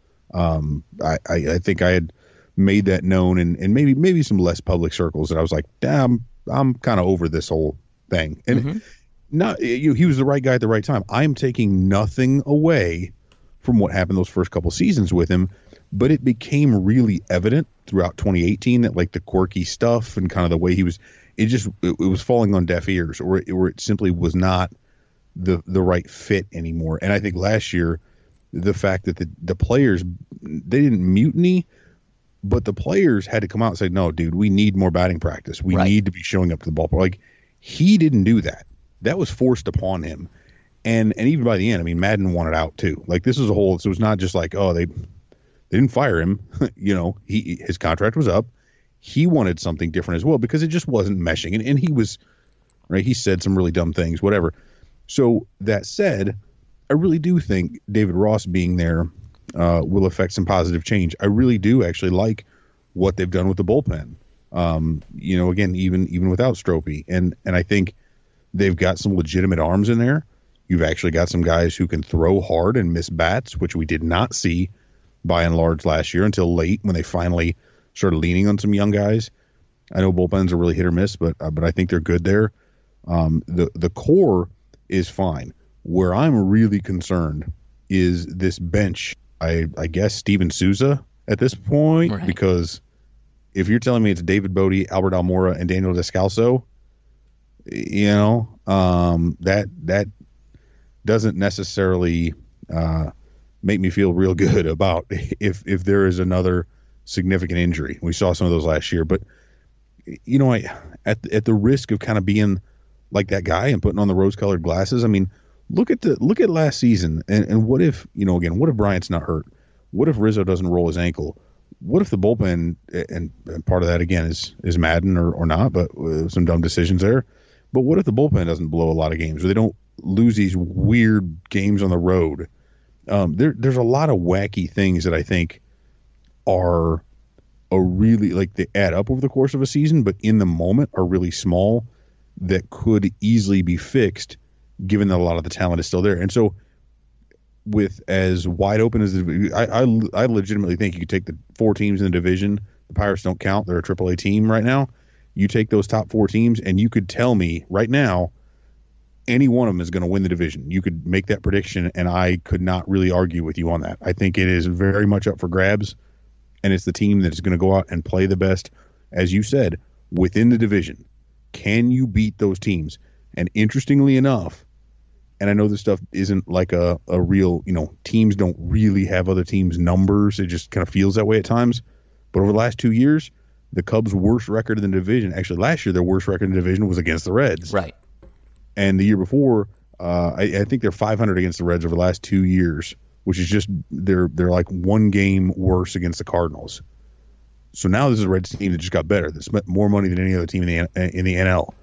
I think I had made that known and maybe some less public circles that I was like, damn, I'm kind of over this whole thing. And he was the right guy at the right time. I'm taking nothing away from what happened those first couple seasons with him, but it became really evident throughout 2018 that like the quirky stuff and kind of the way he was, it was falling on deaf ears, or it simply was not the right fit anymore. And I think last year the fact that the players, they didn't mutiny, but the players had to come out and say, no, dude, we need more batting practice. We need to be showing up to the ballpark. Like, he didn't do that. That was forced upon him. And even by the end, I mean, Madden wanted out too. Like, this was a whole, so it was not just like, oh, they didn't fire him. You know, his contract was up. He wanted something different as well because it just wasn't meshing. And he was, right, he said some really dumb things, whatever. So that said, I really do think David Ross being there will affect some positive change. I really do actually like what they've done with the bullpen. You know, again, even without Stropey. And I think they've got some legitimate arms in there. You've actually got some guys who can throw hard and miss bats, which we did not see by and large last year until late when they finally started leaning on some young guys. I know bullpens are really hit or miss, but I think they're good there. The core is fine. Where I'm really concerned is this bench. I guess Steven Souza at this point, right? Because if you're telling me it's David Bodie, Albert Almora, and Daniel Descalso, you know, that doesn't necessarily make me feel real good about if there is another significant injury. We saw some of those last year, but you know, at the risk of kind of being like that guy and putting on the rose-colored glasses, I mean, look at last season and what if, you know, again, what if Bryant's not hurt? What if Rizzo doesn't roll his ankle? What if the bullpen, and part of that again is Madden or not, but some dumb decisions there. But what if the bullpen doesn't blow a lot of games, or they don't lose these weird games on the road? There's a lot of wacky things that I think are really, like, they add up over the course of a season, but in the moment are really small that could easily be fixed given that a lot of the talent is still there. And so with as wide open as I legitimately think you could take the 4 teams in the division. The Pirates don't count. They're a AAA team right now. You take those top 4 teams and you could tell me right now any one of them is going to win the division. You could make that prediction and I could not really argue with you on that. I think it is very much up for grabs, and it's the team that is going to go out and play the best, as you said, within the division. Can you beat those teams? And interestingly enough, and I know this stuff isn't like a real, you know, teams don't really have other teams' numbers. It just kind of feels that way at times. But over the last 2 years, the Cubs' worst record in the division, actually last year their worst record in the division was against the Reds. Right. And the year before, I think they're 500 against the Reds over the last 2 years, which is just they're like 1 game worse against the Cardinals. So now this is a Reds team that just got better. They spent more money than any other team in the NL.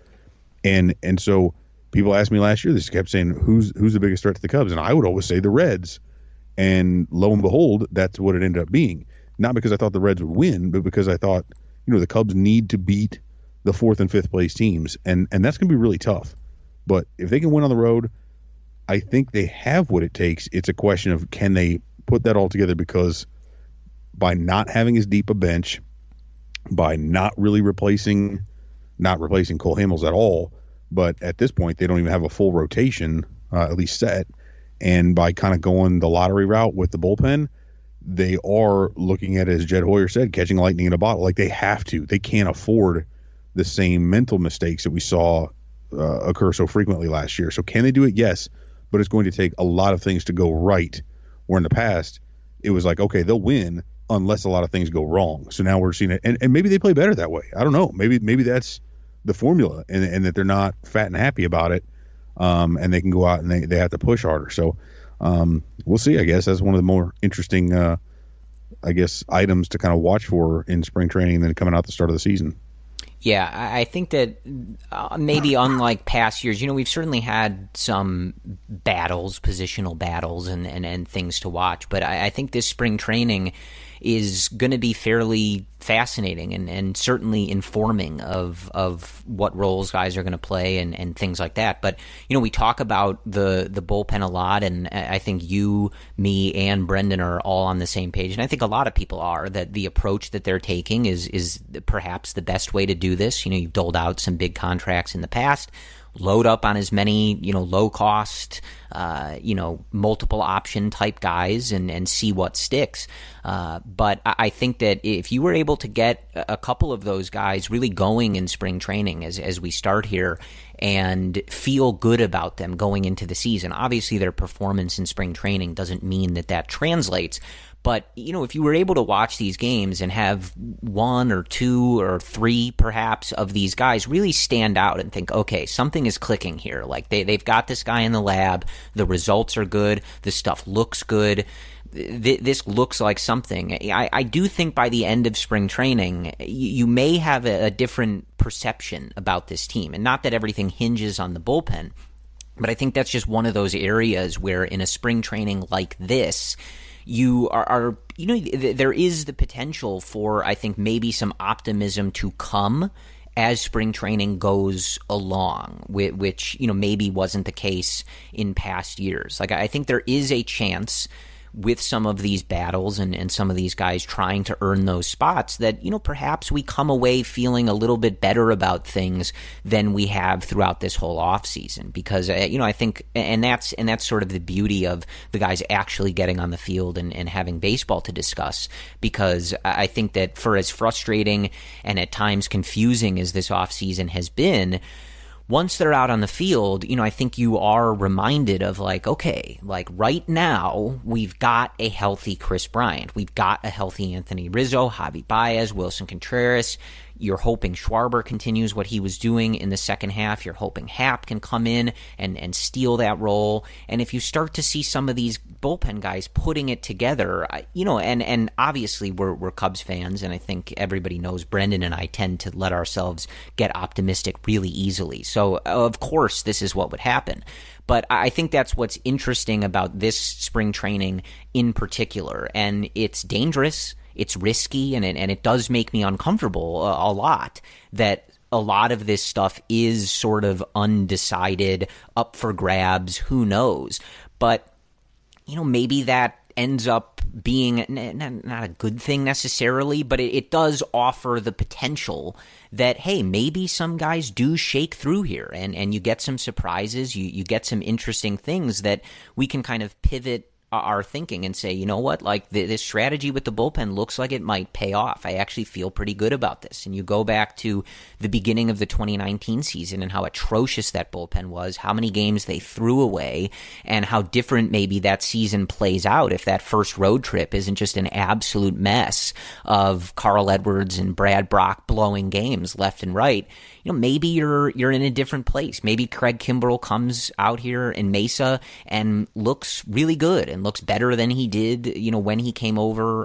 And so people asked me last year, they just kept saying, who's the biggest threat to the Cubs? And I would always say the Reds. And lo and behold, that's what it ended up being. Not because I thought the Reds would win, but because I thought, you know, the Cubs need to beat the 4th and 5th place teams. And that's going to be really tough. But if they can win on the road, I think they have what it takes. It's a question of, can they put that all together? Because by not having as deep a bench, by not replacing Cole Hamels at all, but at this point they don't even have a full rotation, at least set, and by kind of going the lottery route with the bullpen, they are looking at, as Jed Hoyer said, catching lightning in a bottle. Like, they have to. They can't afford the same mental mistakes that we saw occur so frequently last year. So can they do it? Yes, but it's going to take a lot of things to go right, where in the past it was like, okay, they'll win unless a lot of things go wrong. So now we're seeing it, and maybe they play better that way. I don't know. Maybe that's the formula, and that they're not fat and happy about it, and they can go out and they have to push harder. So we'll see. I guess that's one of the more interesting, items to kind of watch for in spring training and then coming out the start of the season. Yeah, I think that maybe unlike past years, you know, we've certainly had some battles, positional battles and things to watch. But I think this spring training is going to be fairly fascinating and certainly informing of what roles guys are going to play and things like that. But, you know, we talk about the bullpen a lot, and I think you, me, and Brendan are all on the same page. And I think a lot of people are, that the approach that they're taking is perhaps the best way to do this. You know, you've doled out some big contracts in the past. Load up on as many, you know, low cost, multiple option type guys and see what sticks. But I think that if you were able to get a couple of those guys really going in spring training as we start here, and feel good about them going into the season. Obviously, their performance in spring training doesn't mean that translates. But, if you were able to watch these games and have one or two or three, perhaps, of these guys really stand out and think, okay, something is clicking here. Like, they've got this guy in the lab. The results are good. The stuff looks good. This looks like something. I do think by the end of spring training, you may have a different perception about this team. And not that everything hinges on the bullpen, but I think that's just one of those areas where in a spring training like this, you are there is the potential for, I think, maybe some optimism to come as spring training goes along, which, maybe wasn't the case in past years. Like, I think there is a chance with some of these battles and some of these guys trying to earn those spots that, perhaps we come away feeling a little bit better about things than we have throughout this whole offseason. Because, I think, and that's sort of the beauty of the guys actually getting on the field and having baseball to discuss. Because I think that for as frustrating and at times confusing as this offseason has been, once they're out on the field, I think you are reminded of okay, right now we've got a healthy Chris Bryant. We've got a healthy Anthony Rizzo, Javi Baez, Wilson Contreras. You're hoping Schwarber continues what he was doing in the second half. You're hoping Happ can come in and steal that role. And if you start to see some of these bullpen guys putting it together, and obviously we're Cubs fans, and I think everybody knows Brendan and I tend to let ourselves get optimistic really easily. So, of course, this is what would happen. But I think that's what's interesting about this spring training in particular. And it's dangerous. It's risky, and it does make me uncomfortable a lot that a lot of this stuff is sort of undecided, up for grabs, who knows. But, maybe that ends up being not a good thing necessarily, but it does offer the potential that, hey, maybe some guys do shake through here and you get some surprises, you get some interesting things that we can kind of pivot our thinking and say, you know what, this strategy with the bullpen looks like it might pay off. I actually feel pretty good about this. And you go back to the beginning of the 2019 season and how atrocious that bullpen was, how many games they threw away, and how different maybe that season plays out if that first road trip isn't just an absolute mess of Carl Edwards and Brad Brock blowing games left and right. Maybe you're in a different place. Maybe Craig Kimbrell comes out here in Mesa and looks really good and looks better than he did, when he came over,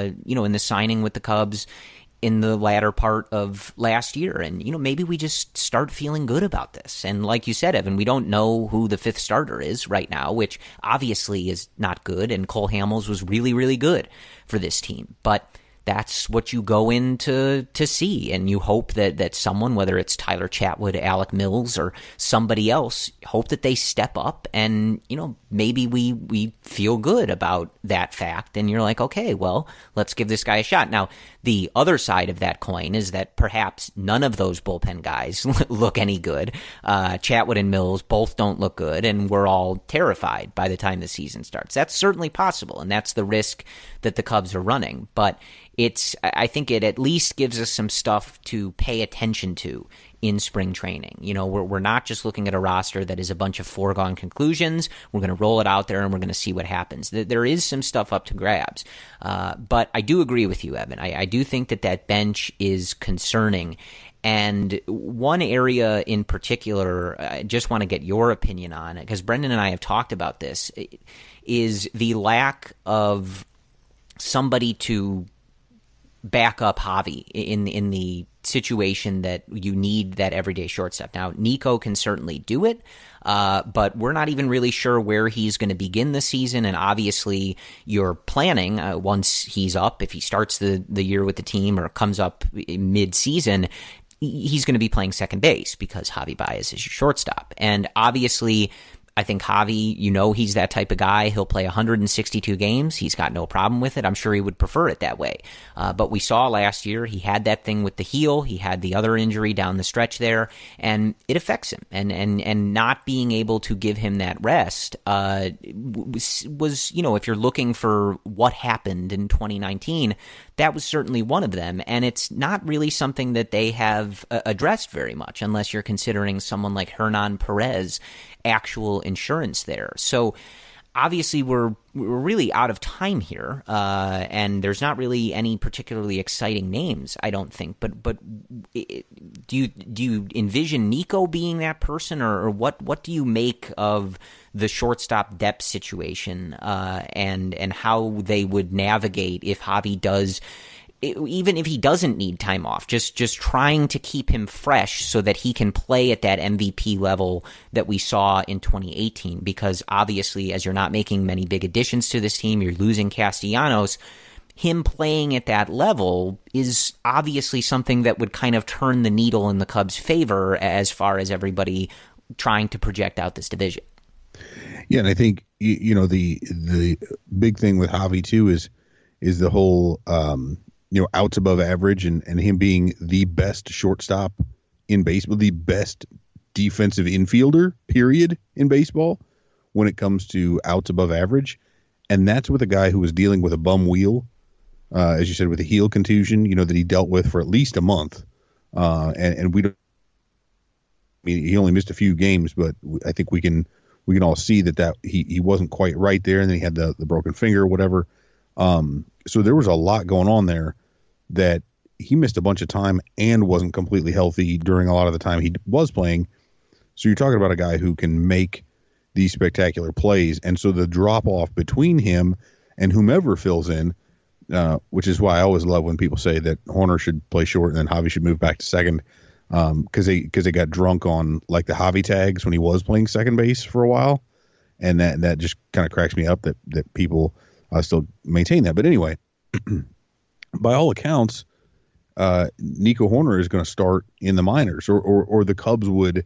in the signing with the Cubs in the latter part of last year. And, maybe we just start feeling good about this. And like you said, Evan, we don't know who the fifth starter is right now, which obviously is not good. And Cole Hamels was really, really good for this team. But that's what you go in to see, and you hope that someone, whether it's Tyler Chatwood, Alec Mills, or somebody else, hope that they step up, and maybe we feel good about that fact, and you're like, okay, well, let's give this guy a shot. Now, the other side of that coin is that perhaps none of those bullpen guys look any good. Chatwood and Mills both don't look good, and we're all terrified by the time the season starts. That's certainly possible, and that's the risk that the Cubs are running, but I think it at least gives us some stuff to pay attention to in spring training. We're not just looking at a roster that is a bunch of foregone conclusions. We're going to roll it out there and we're going to see what happens. There is some stuff up to grabs. But I do agree with you, Evan. I do think that bench is concerning. And one area in particular, I just want to get your opinion on it, because Brendan and I have talked about this, is the lack of somebody to back up Javi in the situation that you need that everyday shortstop. Now, Nico can certainly do it, but we're not even really sure where he's going to begin the season. And obviously, you're planning once he's up, if he starts the year with the team or comes up mid-season, he's going to be playing second base because Javi Baez is your shortstop. And obviously, I think Javi, he's that type of guy. He'll play 162 games. He's got no problem with it. I'm sure he would prefer it that way. But we saw last year he had that thing with the heel. He had the other injury down the stretch there, and it affects him. And not being able to give him that rest was if you're looking for what happened in 2019, that was certainly one of them. And it's not really something that they have addressed very much, unless you're considering someone like Hernan Perez, actual insurance there. So obviously we're really out of time here, and there's not really any particularly exciting names, I don't think. But do you envision Nico being that person, or what do you make of the shortstop depth situation, and how they would navigate if Javi does, even if he doesn't need time off, just trying to keep him fresh so that he can play at that MVP level that we saw in 2018? Because obviously, as you're not making many big additions to this team, you're losing Castellanos. Him playing at that level is obviously something that would kind of turn the needle in the Cubs' favor as far as everybody trying to project out this division. Yeah, and I think the big thing with Javi too is the whole outs above average, and him being the best shortstop in baseball, the best defensive infielder, period, in baseball when it comes to outs above average. And that's with a guy who was dealing with a bum wheel, as you said, with a heel contusion, that he dealt with for at least a month. And we don't, I mean, he only missed a few games, but I think we can all see that he wasn't quite right there. And then he had the broken finger or whatever. So there was a lot going on there that he missed a bunch of time and wasn't completely healthy during a lot of the time he was playing. So you're talking about a guy who can make these spectacular plays. And so the drop off between him and whomever fills in, which is why I always love when people say that Horner should play short and then Javi should move back to second, because they got drunk on like the Javi tags when he was playing second base for a while. And that just kind of cracks me up that people still maintain that. But anyway, by all accounts, Nico Horner is going to start in the minors, or the Cubs would.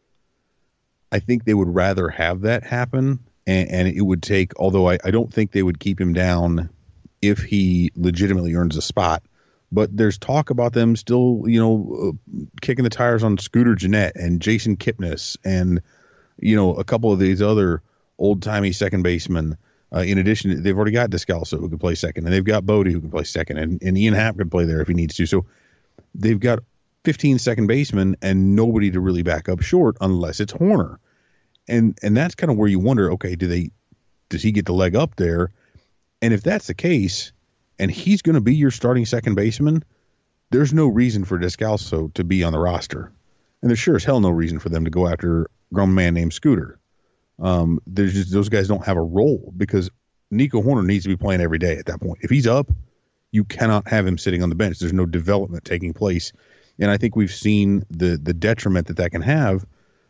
I think they would rather have that happen, and it would take. Although I don't think they would keep him down if he legitimately earns a spot. But there's talk about them still, kicking the tires on Scooter Gennett and Jason Kipnis, and a couple of these other old timey second basemen. In addition, they've already got Descalso who can play second, and they've got Bodie who can play second, and Ian Happ can play there if he needs to. So they've got 15 second basemen and nobody to really back up short unless it's Horner. And that's kind of where you wonder, okay, does he get the leg up there? And if that's the case, and he's going to be your starting second baseman, there's no reason for Descalso to be on the roster. And there's sure as hell no reason for them to go after a grown man named Scooter. There's just, those guys don't have a role because Nico Horner needs to be playing every day at that point. If he's up, you cannot have him sitting on the bench. There's no development taking place. And I think we've seen the detriment that can have.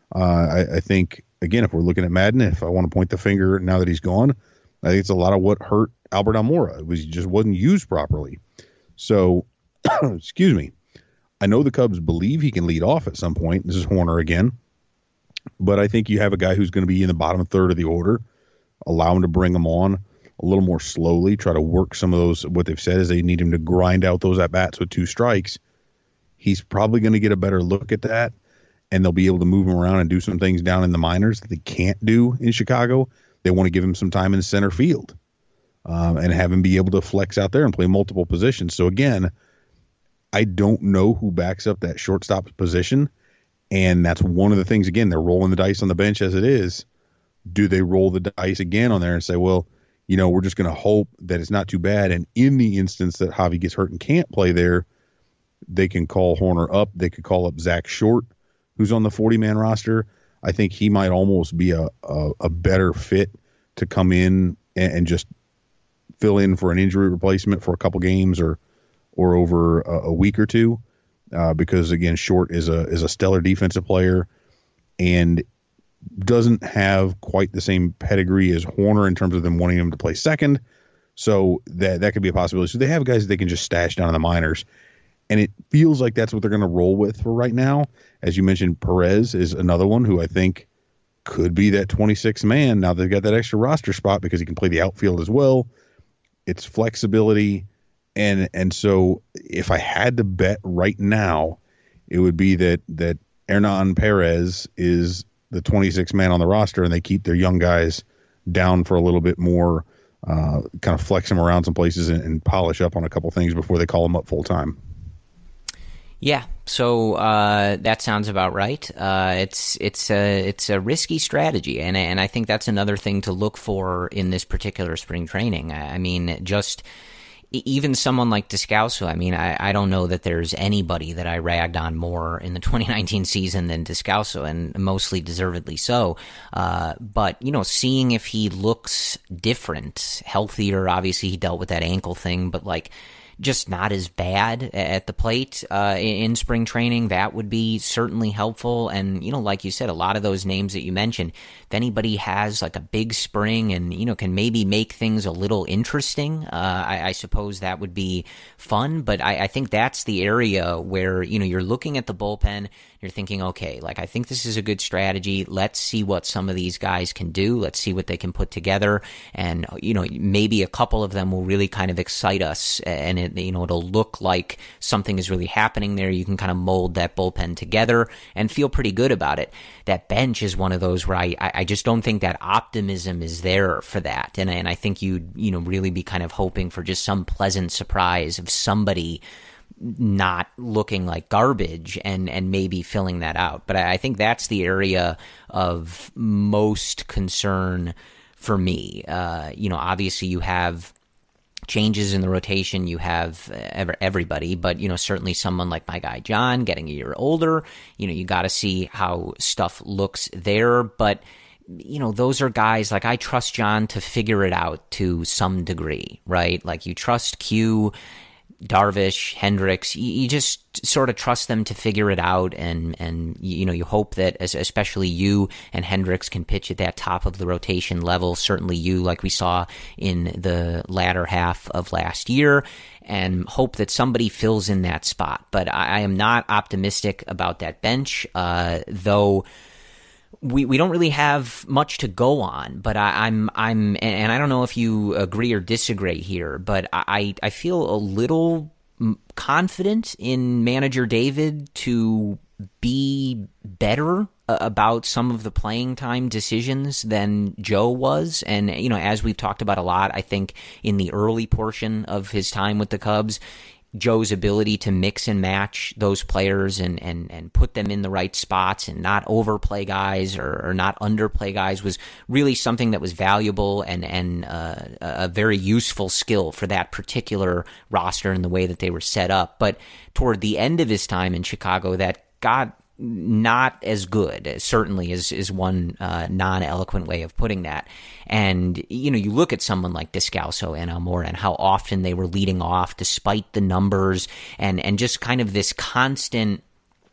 I think, again, if we're looking at Madden, if I want to point the finger now that he's gone, I think it's a lot of what hurt Albert Almora. He just wasn't used properly. So, excuse me. I know the Cubs believe he can lead off at some point. This is Horner again. But I think you have a guy who's going to be in the bottom third of the order. Allow him to bring him on a little more slowly. Try to work some of those. What they've said is they need him to grind out those at-bats with 2 strikes. He's probably going to get a better look at that, and they'll be able to move him around and do some things down in the minors that they can't do in Chicago. They want to give him some time in center field and have him be able to flex out there and play multiple positions. So, again, I don't know who backs up that shortstop position. And that's one of the things, again, they're rolling the dice on the bench as it is. Do they roll the dice again on there and say, well, we're just going to hope that it's not too bad. And in the instance that Javi gets hurt and can't play there, they can call Horner up. They could call up Zach Short, who's on the 40-man roster. I think he might almost be a better fit to come in and just fill in for an injury replacement for a couple games or over a week or two. Because again, Short is a stellar defensive player and doesn't have quite the same pedigree as Horner in terms of them wanting him to play second. So that could be a possibility. So they have guys that they can just stash down in the minors. And it feels like that's what they're going to roll with for right now. As you mentioned, Perez is another one who I think could be that 26th man. Now they've got that extra roster spot because he can play the outfield as well. It's flexibility. And so if I had to bet right now, it would be that Hernan Perez is the 26th man on the roster and they keep their young guys down for a little bit more kind of flex him around some places and polish up on a couple things before they call him up full time. Yeah, so that sounds about right. It's a risky strategy, and I think that's another thing to look for in this particular spring training. I mean, just even someone like Descalso. I mean, I don't know that there's anybody that I ragged on more in the 2019 season than Descalso, and mostly deservedly so. But seeing if he looks different, healthier. Obviously, he dealt with that ankle thing, but just not as bad at the plate in spring training, that would be certainly helpful. And, like you said, a lot of those names that you mentioned, if anybody has like a big spring and, can maybe make things a little interesting, I suppose that would be fun. But I think that's the area where, you're looking at the bullpen, you're thinking, okay, I think this is a good strategy. Let's see what some of these guys can do. Let's see what they can put together. And, maybe a couple of them will really kind of excite us, and it'll look like something is really happening there. You can kind of mold that bullpen together and feel pretty good about it. That bench is one of those where I just don't think that optimism is there for that. And I think you'd, really be kind of hoping for just some pleasant surprise of somebody not looking like garbage and maybe filling that out. But I think that's the area of most concern for me. Obviously you have changes in the rotation, you have everybody, but certainly someone like my guy John getting a year older, you got to see how stuff looks there. But those are guys I trust John to figure it out to some degree, right? You trust Q, Darvish, Hendricks, you just sort of trust them to figure it out, and you hope that especially you and Hendricks can pitch at that top of the rotation level. Certainly you, like we saw in the latter half of last year, and hope that somebody fills in that spot. But I am not optimistic about that bench, though. We don't really have much to go on, but I'm and I don't know if you agree or disagree here, but I feel a little confident in manager David to be better about some of the playing time decisions than Joe was. And, as we've talked about a lot, I think in the early portion of his time with the Cubs, Joe's ability to mix and match those players and put them in the right spots and not overplay guys or not underplay guys was really something that was valuable and a very useful skill for that particular roster and the way that they were set up. But toward the end of his time in Chicago, that got not as good, certainly is one non-eloquent way of putting that. And, you look at someone like Descalso and Almora and how often they were leading off despite the numbers and just kind of this constant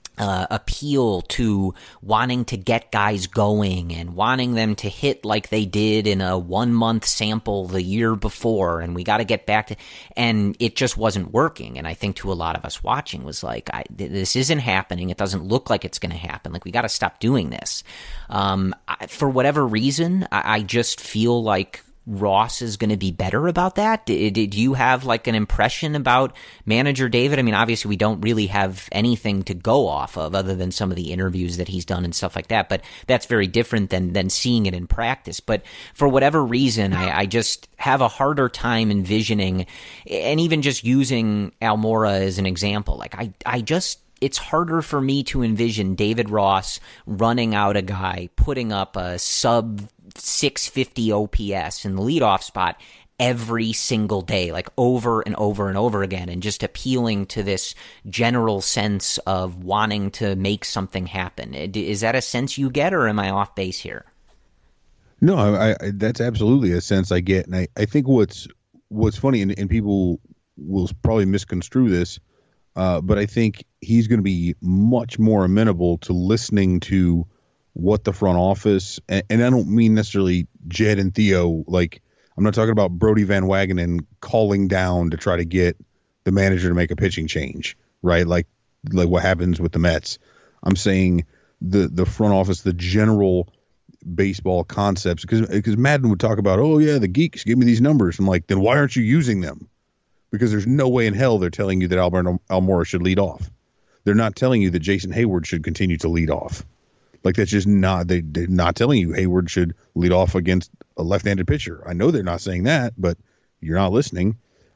appeal to wanting to get guys going and wanting them to hit like they did in a 1 month sample the year before, and we got to get back to, and it just wasn't working. And I think to a lot of us watching was this isn't happening. It doesn't look like it's going to happen. We got to stop doing this. For whatever reason, I just feel like Ross is going to be better about that. Did you have an impression about manager David? I mean, obviously we don't really have anything to go off of other than some of the interviews that he's done and stuff like that, but that's very different than seeing it in practice. But for whatever reason, I just have a harder time envisioning, and even just using Almora as an example, it's harder for me to envision David Ross running out a guy, putting up a sub 650 OPS in the leadoff spot every single day, over and over and over again, and just appealing to this general sense of wanting to make something happen. Is that a sense you get, or am I off base here? No, I that's absolutely a sense I get. And I think what's funny, and people will probably misconstrue this, but I think he's going to be much more amenable to listening to what the front office, and I don't mean necessarily Jed and Theo, I'm not talking about Brody Van Wagenen calling down to try to get the manager to make a pitching change, right? Like what happens with the Mets. I'm saying the front office, the general baseball concepts, because Madden would talk about, oh yeah, the geeks give me these numbers. I'm like, then why aren't you using them? Because there's no way in hell they're telling you that Albert Almora should lead off. They're not telling you that Jason Hayward should continue to lead off. That's just not, they're not telling you Hayward should lead off against a left-handed pitcher. I know they're not saying that, but you're not listening.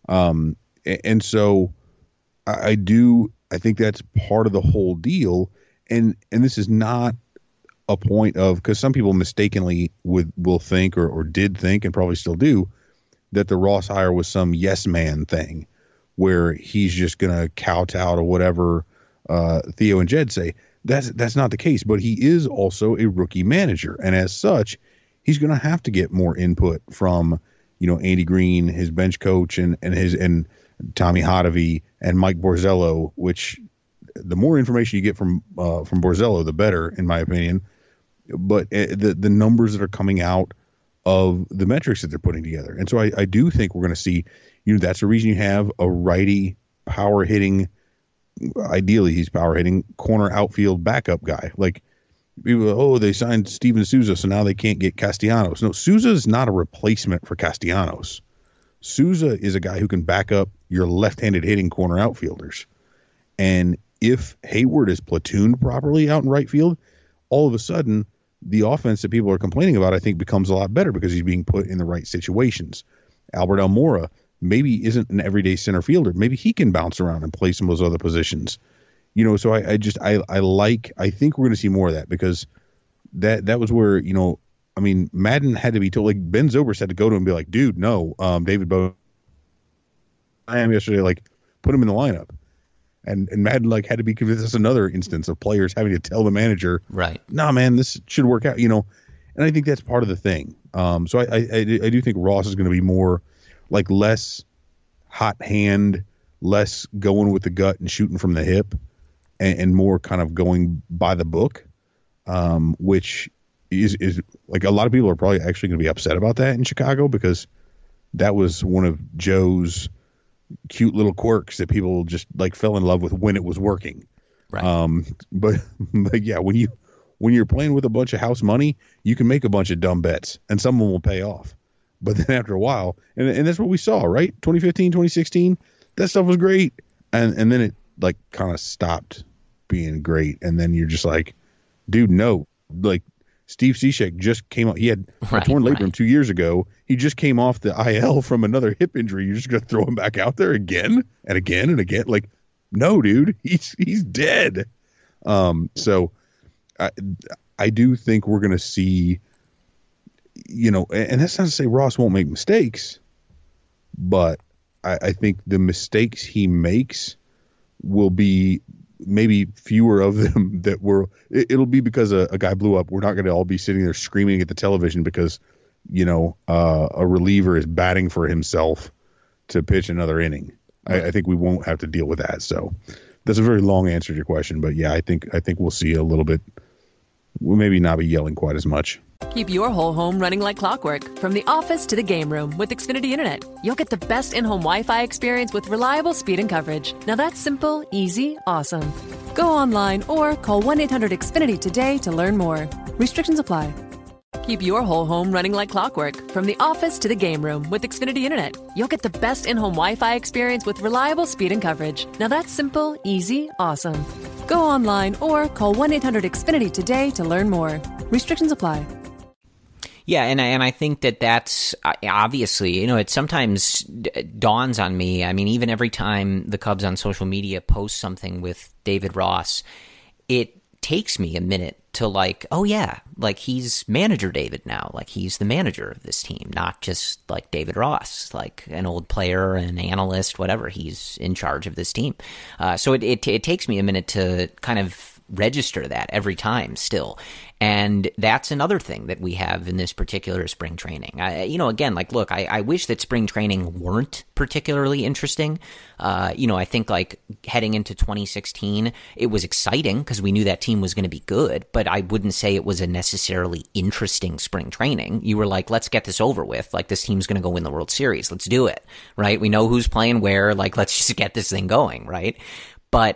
And so I think that's part of the whole deal. And this is not a point of, because some people mistakenly will think or did think and probably still do, that the Ross hire was some yes man thing where he's just going to kowtow to whatever Theo and Jed say. That's not the case, but he is also a rookie manager. And as such, he's going to have to get more input from, Andy Green, his bench coach, and Tommy Hotovy and Mike Borzello, which the more information you get from Borzello, the better, in my opinion. But the numbers that are coming out of the metrics that they're putting together. And so I do think we're going to see, that's the reason you have a righty power hitting, ideally he's power hitting, corner outfield backup guy. Like, people, they signed Steven Souza, so now they can't get Castellanos. No, Souza is not a replacement for Castellanos. Souza is a guy who can back up your left-handed hitting corner outfielders. And if Hayward is platooned properly out in right field, all of a sudden the offense that people are complaining about, I think, becomes a lot better because he's being put in the right situations. Albert Almora maybe isn't an everyday center fielder. Maybe he can bounce around and play some of those other positions. So I think we're going to see more of that, because that was where, Madden had to be told, like Ben Zobrist had to go to him and be like, dude, no, David Bowe, I am yesterday, like, put him in the lineup. And Madden had to be convinced. That's another instance of players having to tell the manager, right, nah, man, this should work out, and I think that's part of the thing. So I do think Ross is going to be more like less hot hand, less going with the gut and shooting from the hip, and more kind of going by the book, which is like, a lot of people are probably actually going to be upset about that in Chicago, because that was one of Joe's cute little quirks that people just fell in love with when it was working. Right. But yeah, when you're playing with a bunch of house money, you can make a bunch of dumb bets and some of them will pay off. But then after a while, and that's what we saw, right? 2015, 2016, that stuff was great. And then it kind of stopped being great. And then you're just like, dude, no, Steve Cishek just came out. He had a torn labrum 2 years ago. He just came off the IL from another hip injury. You're just going to throw him back out there again and again and again? No, dude, he's dead. So I do think we're going to see, and that's not to say Ross won't make mistakes, but I think the mistakes he makes will be maybe fewer of them that it'll be because a guy blew up. We're not going to all be sitting there screaming at the television because, a reliever is batting for himself to pitch another inning. I think we won't have to deal with that. So that's a very long answer to your question, but yeah, I think we'll see a little bit. We'll maybe not be yelling quite as much. Keep your whole home running like clockwork, from the office to the game room with Xfinity Internet. You'll get the best in-home Wi-Fi experience with reliable speed and coverage. Now that's simple, easy, awesome. Go online or call 1-800-XFINITY today to learn more. Restrictions apply. Keep your whole home running like clockwork, from the office to the game room with Xfinity Internet. You'll get the best in-home Wi-Fi experience with reliable speed and coverage. Now that's simple, easy, awesome. Go online or call 1-800-XFINITY today to learn more. Restrictions apply. Yeah, and I think that's obviously, it sometimes dawns on me. I mean, even every time the Cubs on social media post something with David Ross, it takes me a minute to oh yeah, he's manager David now. He's the manager of this team, not just David Ross, an old player, an analyst, whatever. He's in charge of this team. So it takes me a minute to kind of register that every time still. And that's another thing that we have in this particular spring training. Again, look, I wish that spring training weren't particularly interesting. I think heading into 2016, it was exciting because we knew that team was going to be good, but I wouldn't say it was a necessarily interesting spring training. You were let's get this over with. This team's going to go win the World Series. Let's do it, right? We know who's playing where. Let's just get this thing going, right? But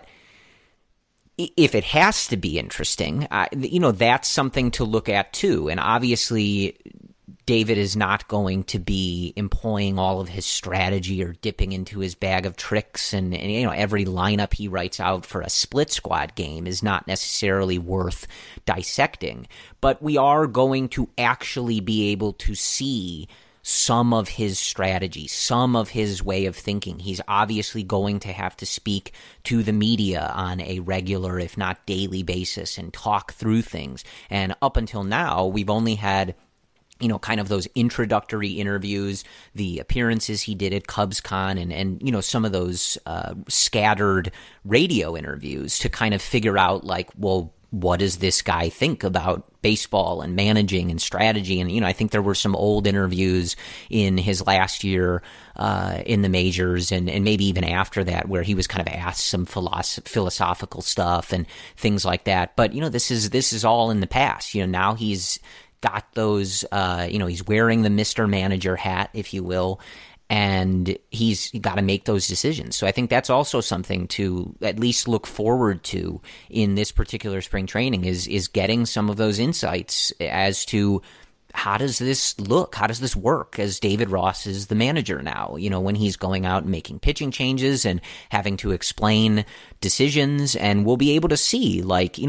if it has to be interesting, that's something to look at too. And obviously, David is not going to be employing all of his strategy or dipping into his bag of tricks, and every lineup he writes out for a split squad game is not necessarily worth dissecting. But we are going to actually be able to see some of his strategy, some of his way of thinking. He's obviously going to have to speak to the media on a regular, if not daily basis and talk through things. And up until now, we've only had kind of those introductory interviews, the appearances he did at CubsCon, and some of those scattered radio interviews to kind of figure out, like, well, what does this guy think about baseball and managing and strategy? And, I think there were some old interviews in his last year in the majors and maybe even after that where he was kind of asked some philosophical stuff and things like that. But, this is all in the past. Now he's got those, he's wearing the Mr. Manager hat, if you will, and he's got to make those decisions. So I think that's also something to at least look forward to in this particular spring training is getting some of those insights as to how does this look? How does this work as David Ross is the manager now? When he's going out and making pitching changes and having to explain decisions, and we'll be able to see,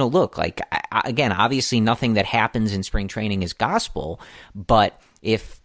again, obviously nothing that happens in spring training is gospel, but if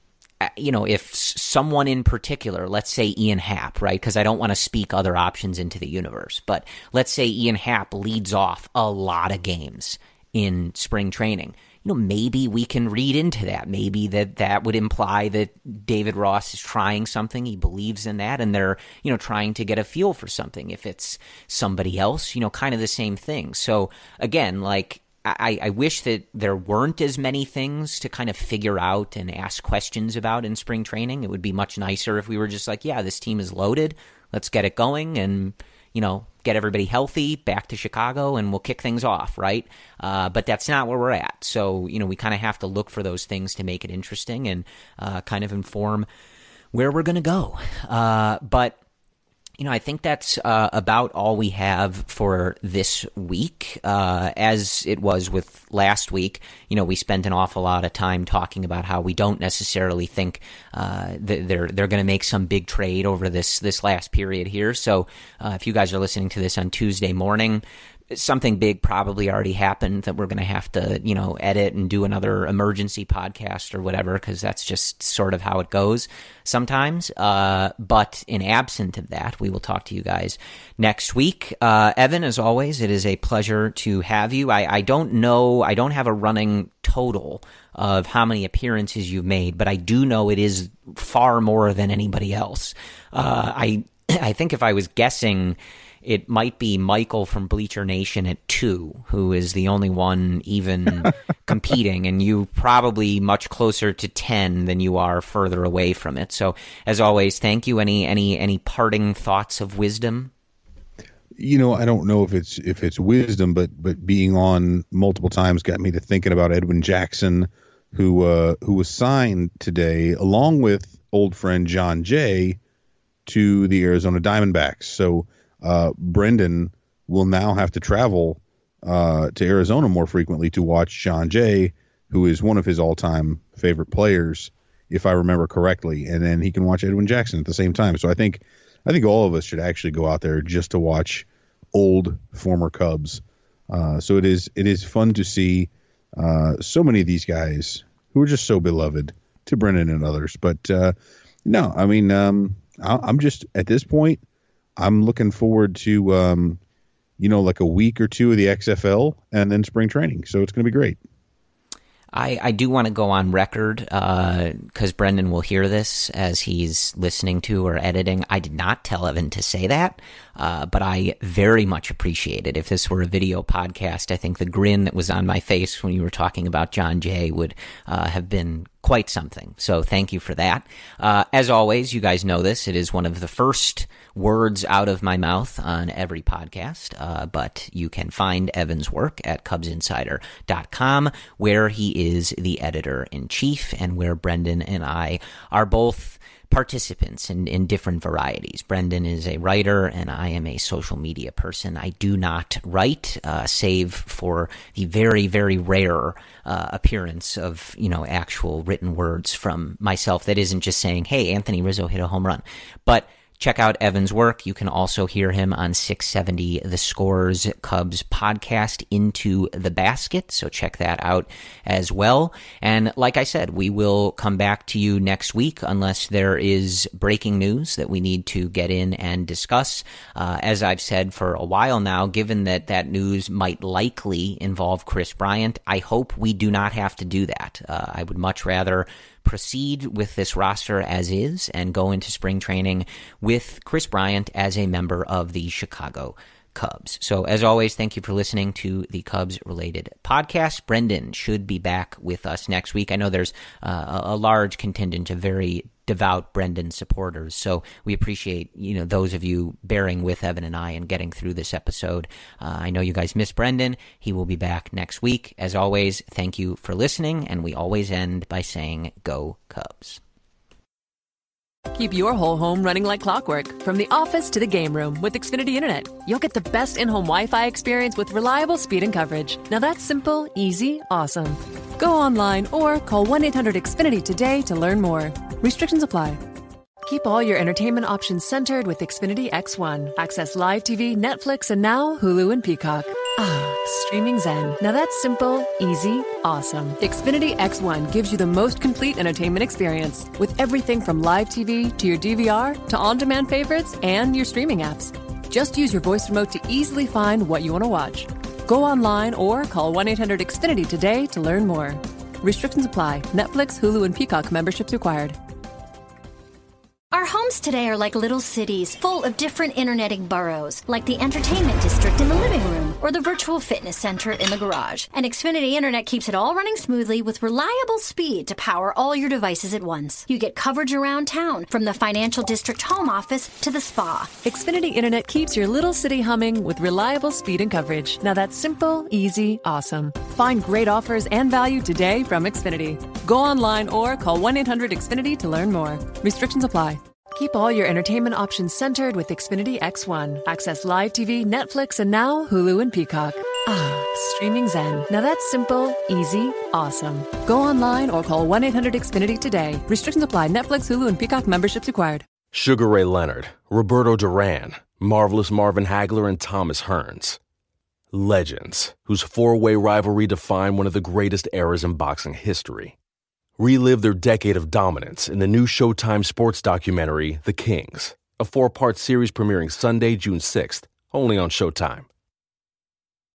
someone in particular, let's say Ian Happ, right? Because I don't want to speak other options into the universe, but let's say Ian Happ leads off a lot of games in spring training. Maybe we can read into that. Maybe that would imply that David Ross is trying something. He believes in that, and they're, trying to get a feel for something. If it's somebody else, kind of the same thing. So again, I wish that there weren't as many things to kind of figure out and ask questions about in spring training. It would be much nicer if we were just like, yeah, this team is loaded. Let's get it going and, get everybody healthy, back to Chicago, and we'll kick things off, right? But that's not where we're at. So, we kind of have to look for those things to make it interesting and kind of inform where we're going to go. But I think that's about all we have for this week. As it was with last week, we spent an awful lot of time talking about how we don't necessarily think that they're going to make some big trade over this last period here. So if you guys are listening to this on Tuesday morning, something big probably already happened that we're going to have to, edit and do another emergency podcast or whatever, because that's just sort of how it goes sometimes. But in absent of that, we will talk to you guys next week. Evan, as always, it is a pleasure to have you. I don't know, I don't have a running total of how many appearances you've made, but I do know it is far more than anybody else. I think if I was guessing, it might be Michael from Bleacher Nation at 2, who is the only one even competing, and you probably much closer to 10 than you are further away from it. So, as always, thank you. Any parting thoughts of wisdom? I don't know if it's wisdom, but being on multiple times got me to thinking about Edwin Jackson, who was signed today along with old friend John Jay to the Arizona Diamondbacks. So Brendan will now have to travel to Arizona more frequently to watch John Jay, who is one of his all-time favorite players, if I remember correctly, and then he can watch Edwin Jackson at the same time. So I think all of us should actually go out there just to watch old former Cubs. So it is fun to see so many of these guys who are just so beloved to Brendan and others. But no, I mean, I'm just at this point, I'm looking forward to, like a week or two of the XFL and then spring training. So it's going to be great. I do want to go on record because Brendan will hear this as he's listening to or editing. I did not tell Evan to say that, but I very much appreciate it. If this were a video podcast, I think the grin that was on my face when you were talking about John Jay would have been quite something. So thank you for that. As always, you guys know this. It is one of the first words out of my mouth on every podcast, but you can find Evan's work at CubsInsider.com, where he is the editor-in-chief and where Brendan and I are both participants in different varieties. Brendan is a writer, and I am a social media person. I do not write, save for the very, very rare appearance of, actual written words from myself that isn't just saying, hey, Anthony Rizzo hit a home run. But check out Evan's work. You can also hear him on 670 The Score's Cubs podcast, Into the Basket. So check that out as well. And like I said, we will come back to you next week unless there is breaking news that we need to get in and discuss. As I've said for a while now, given that news might likely involve Kris Bryant, I hope we do not have to do that. I would much rather proceed with this roster as is and go into spring training with Kris Bryant as a member of the Chicago Cubs. So as always, thank you for listening to the Cubs-related podcast. Brendan should be back with us next week. I know there's a large contingent of very devout Brendan supporters, so we appreciate those of you bearing with Evan and I and getting through this episode. I know you guys miss Brendan. He will be back next week. As always, thank you for listening, and we always end by saying, Go Cubs. Keep your whole home running like clockwork, from the office to the game room with Xfinity Internet. You'll get the best in-home Wi-Fi experience with reliable speed and coverage. Now that's simple, easy, awesome. Go online or call 1-800-XFINITY today to learn more. Restrictions apply. Keep all your entertainment options centered with Xfinity X1. Access live TV, Netflix, and now Hulu and Peacock. Streaming zen. Now that's simple, easy, awesome. Xfinity X1 gives you the most complete entertainment experience with everything from live TV to your DVR to on-demand favorites and your streaming apps. Just use your voice remote to easily find what you want to watch. Go online or call 1-800-XFINITY today to learn more. Restrictions apply. Netflix, Hulu, and Peacock memberships required. Our homes today are like little cities, full of different interneting boroughs, like the entertainment district in the living room or the virtual fitness center in the garage. And Xfinity Internet keeps it all running smoothly with reliable speed to power all your devices at once. You get coverage around town, from the financial district home office to the spa. Xfinity Internet keeps your little city humming with reliable speed and coverage. Now that's simple, easy, awesome. Find great offers and value today from Xfinity. Go online or call 1-800-XFINITY to learn more. Restrictions apply. Keep all your entertainment options centered with Xfinity X1. Access live TV, Netflix, and now Hulu and Peacock. Streaming zen. Now that's simple, easy, awesome. Go online or call 1-800-XFINITY today. Restrictions apply. Netflix, Hulu, and Peacock memberships required. Sugar Ray Leonard, Roberto Duran, Marvelous Marvin Hagler, and Thomas Hearns. Legends, whose four-way rivalry defined one of the greatest eras in boxing history. Relive their decade of dominance in the new Showtime sports documentary, The Kings, a 4-part series premiering Sunday, June 6th, only on Showtime.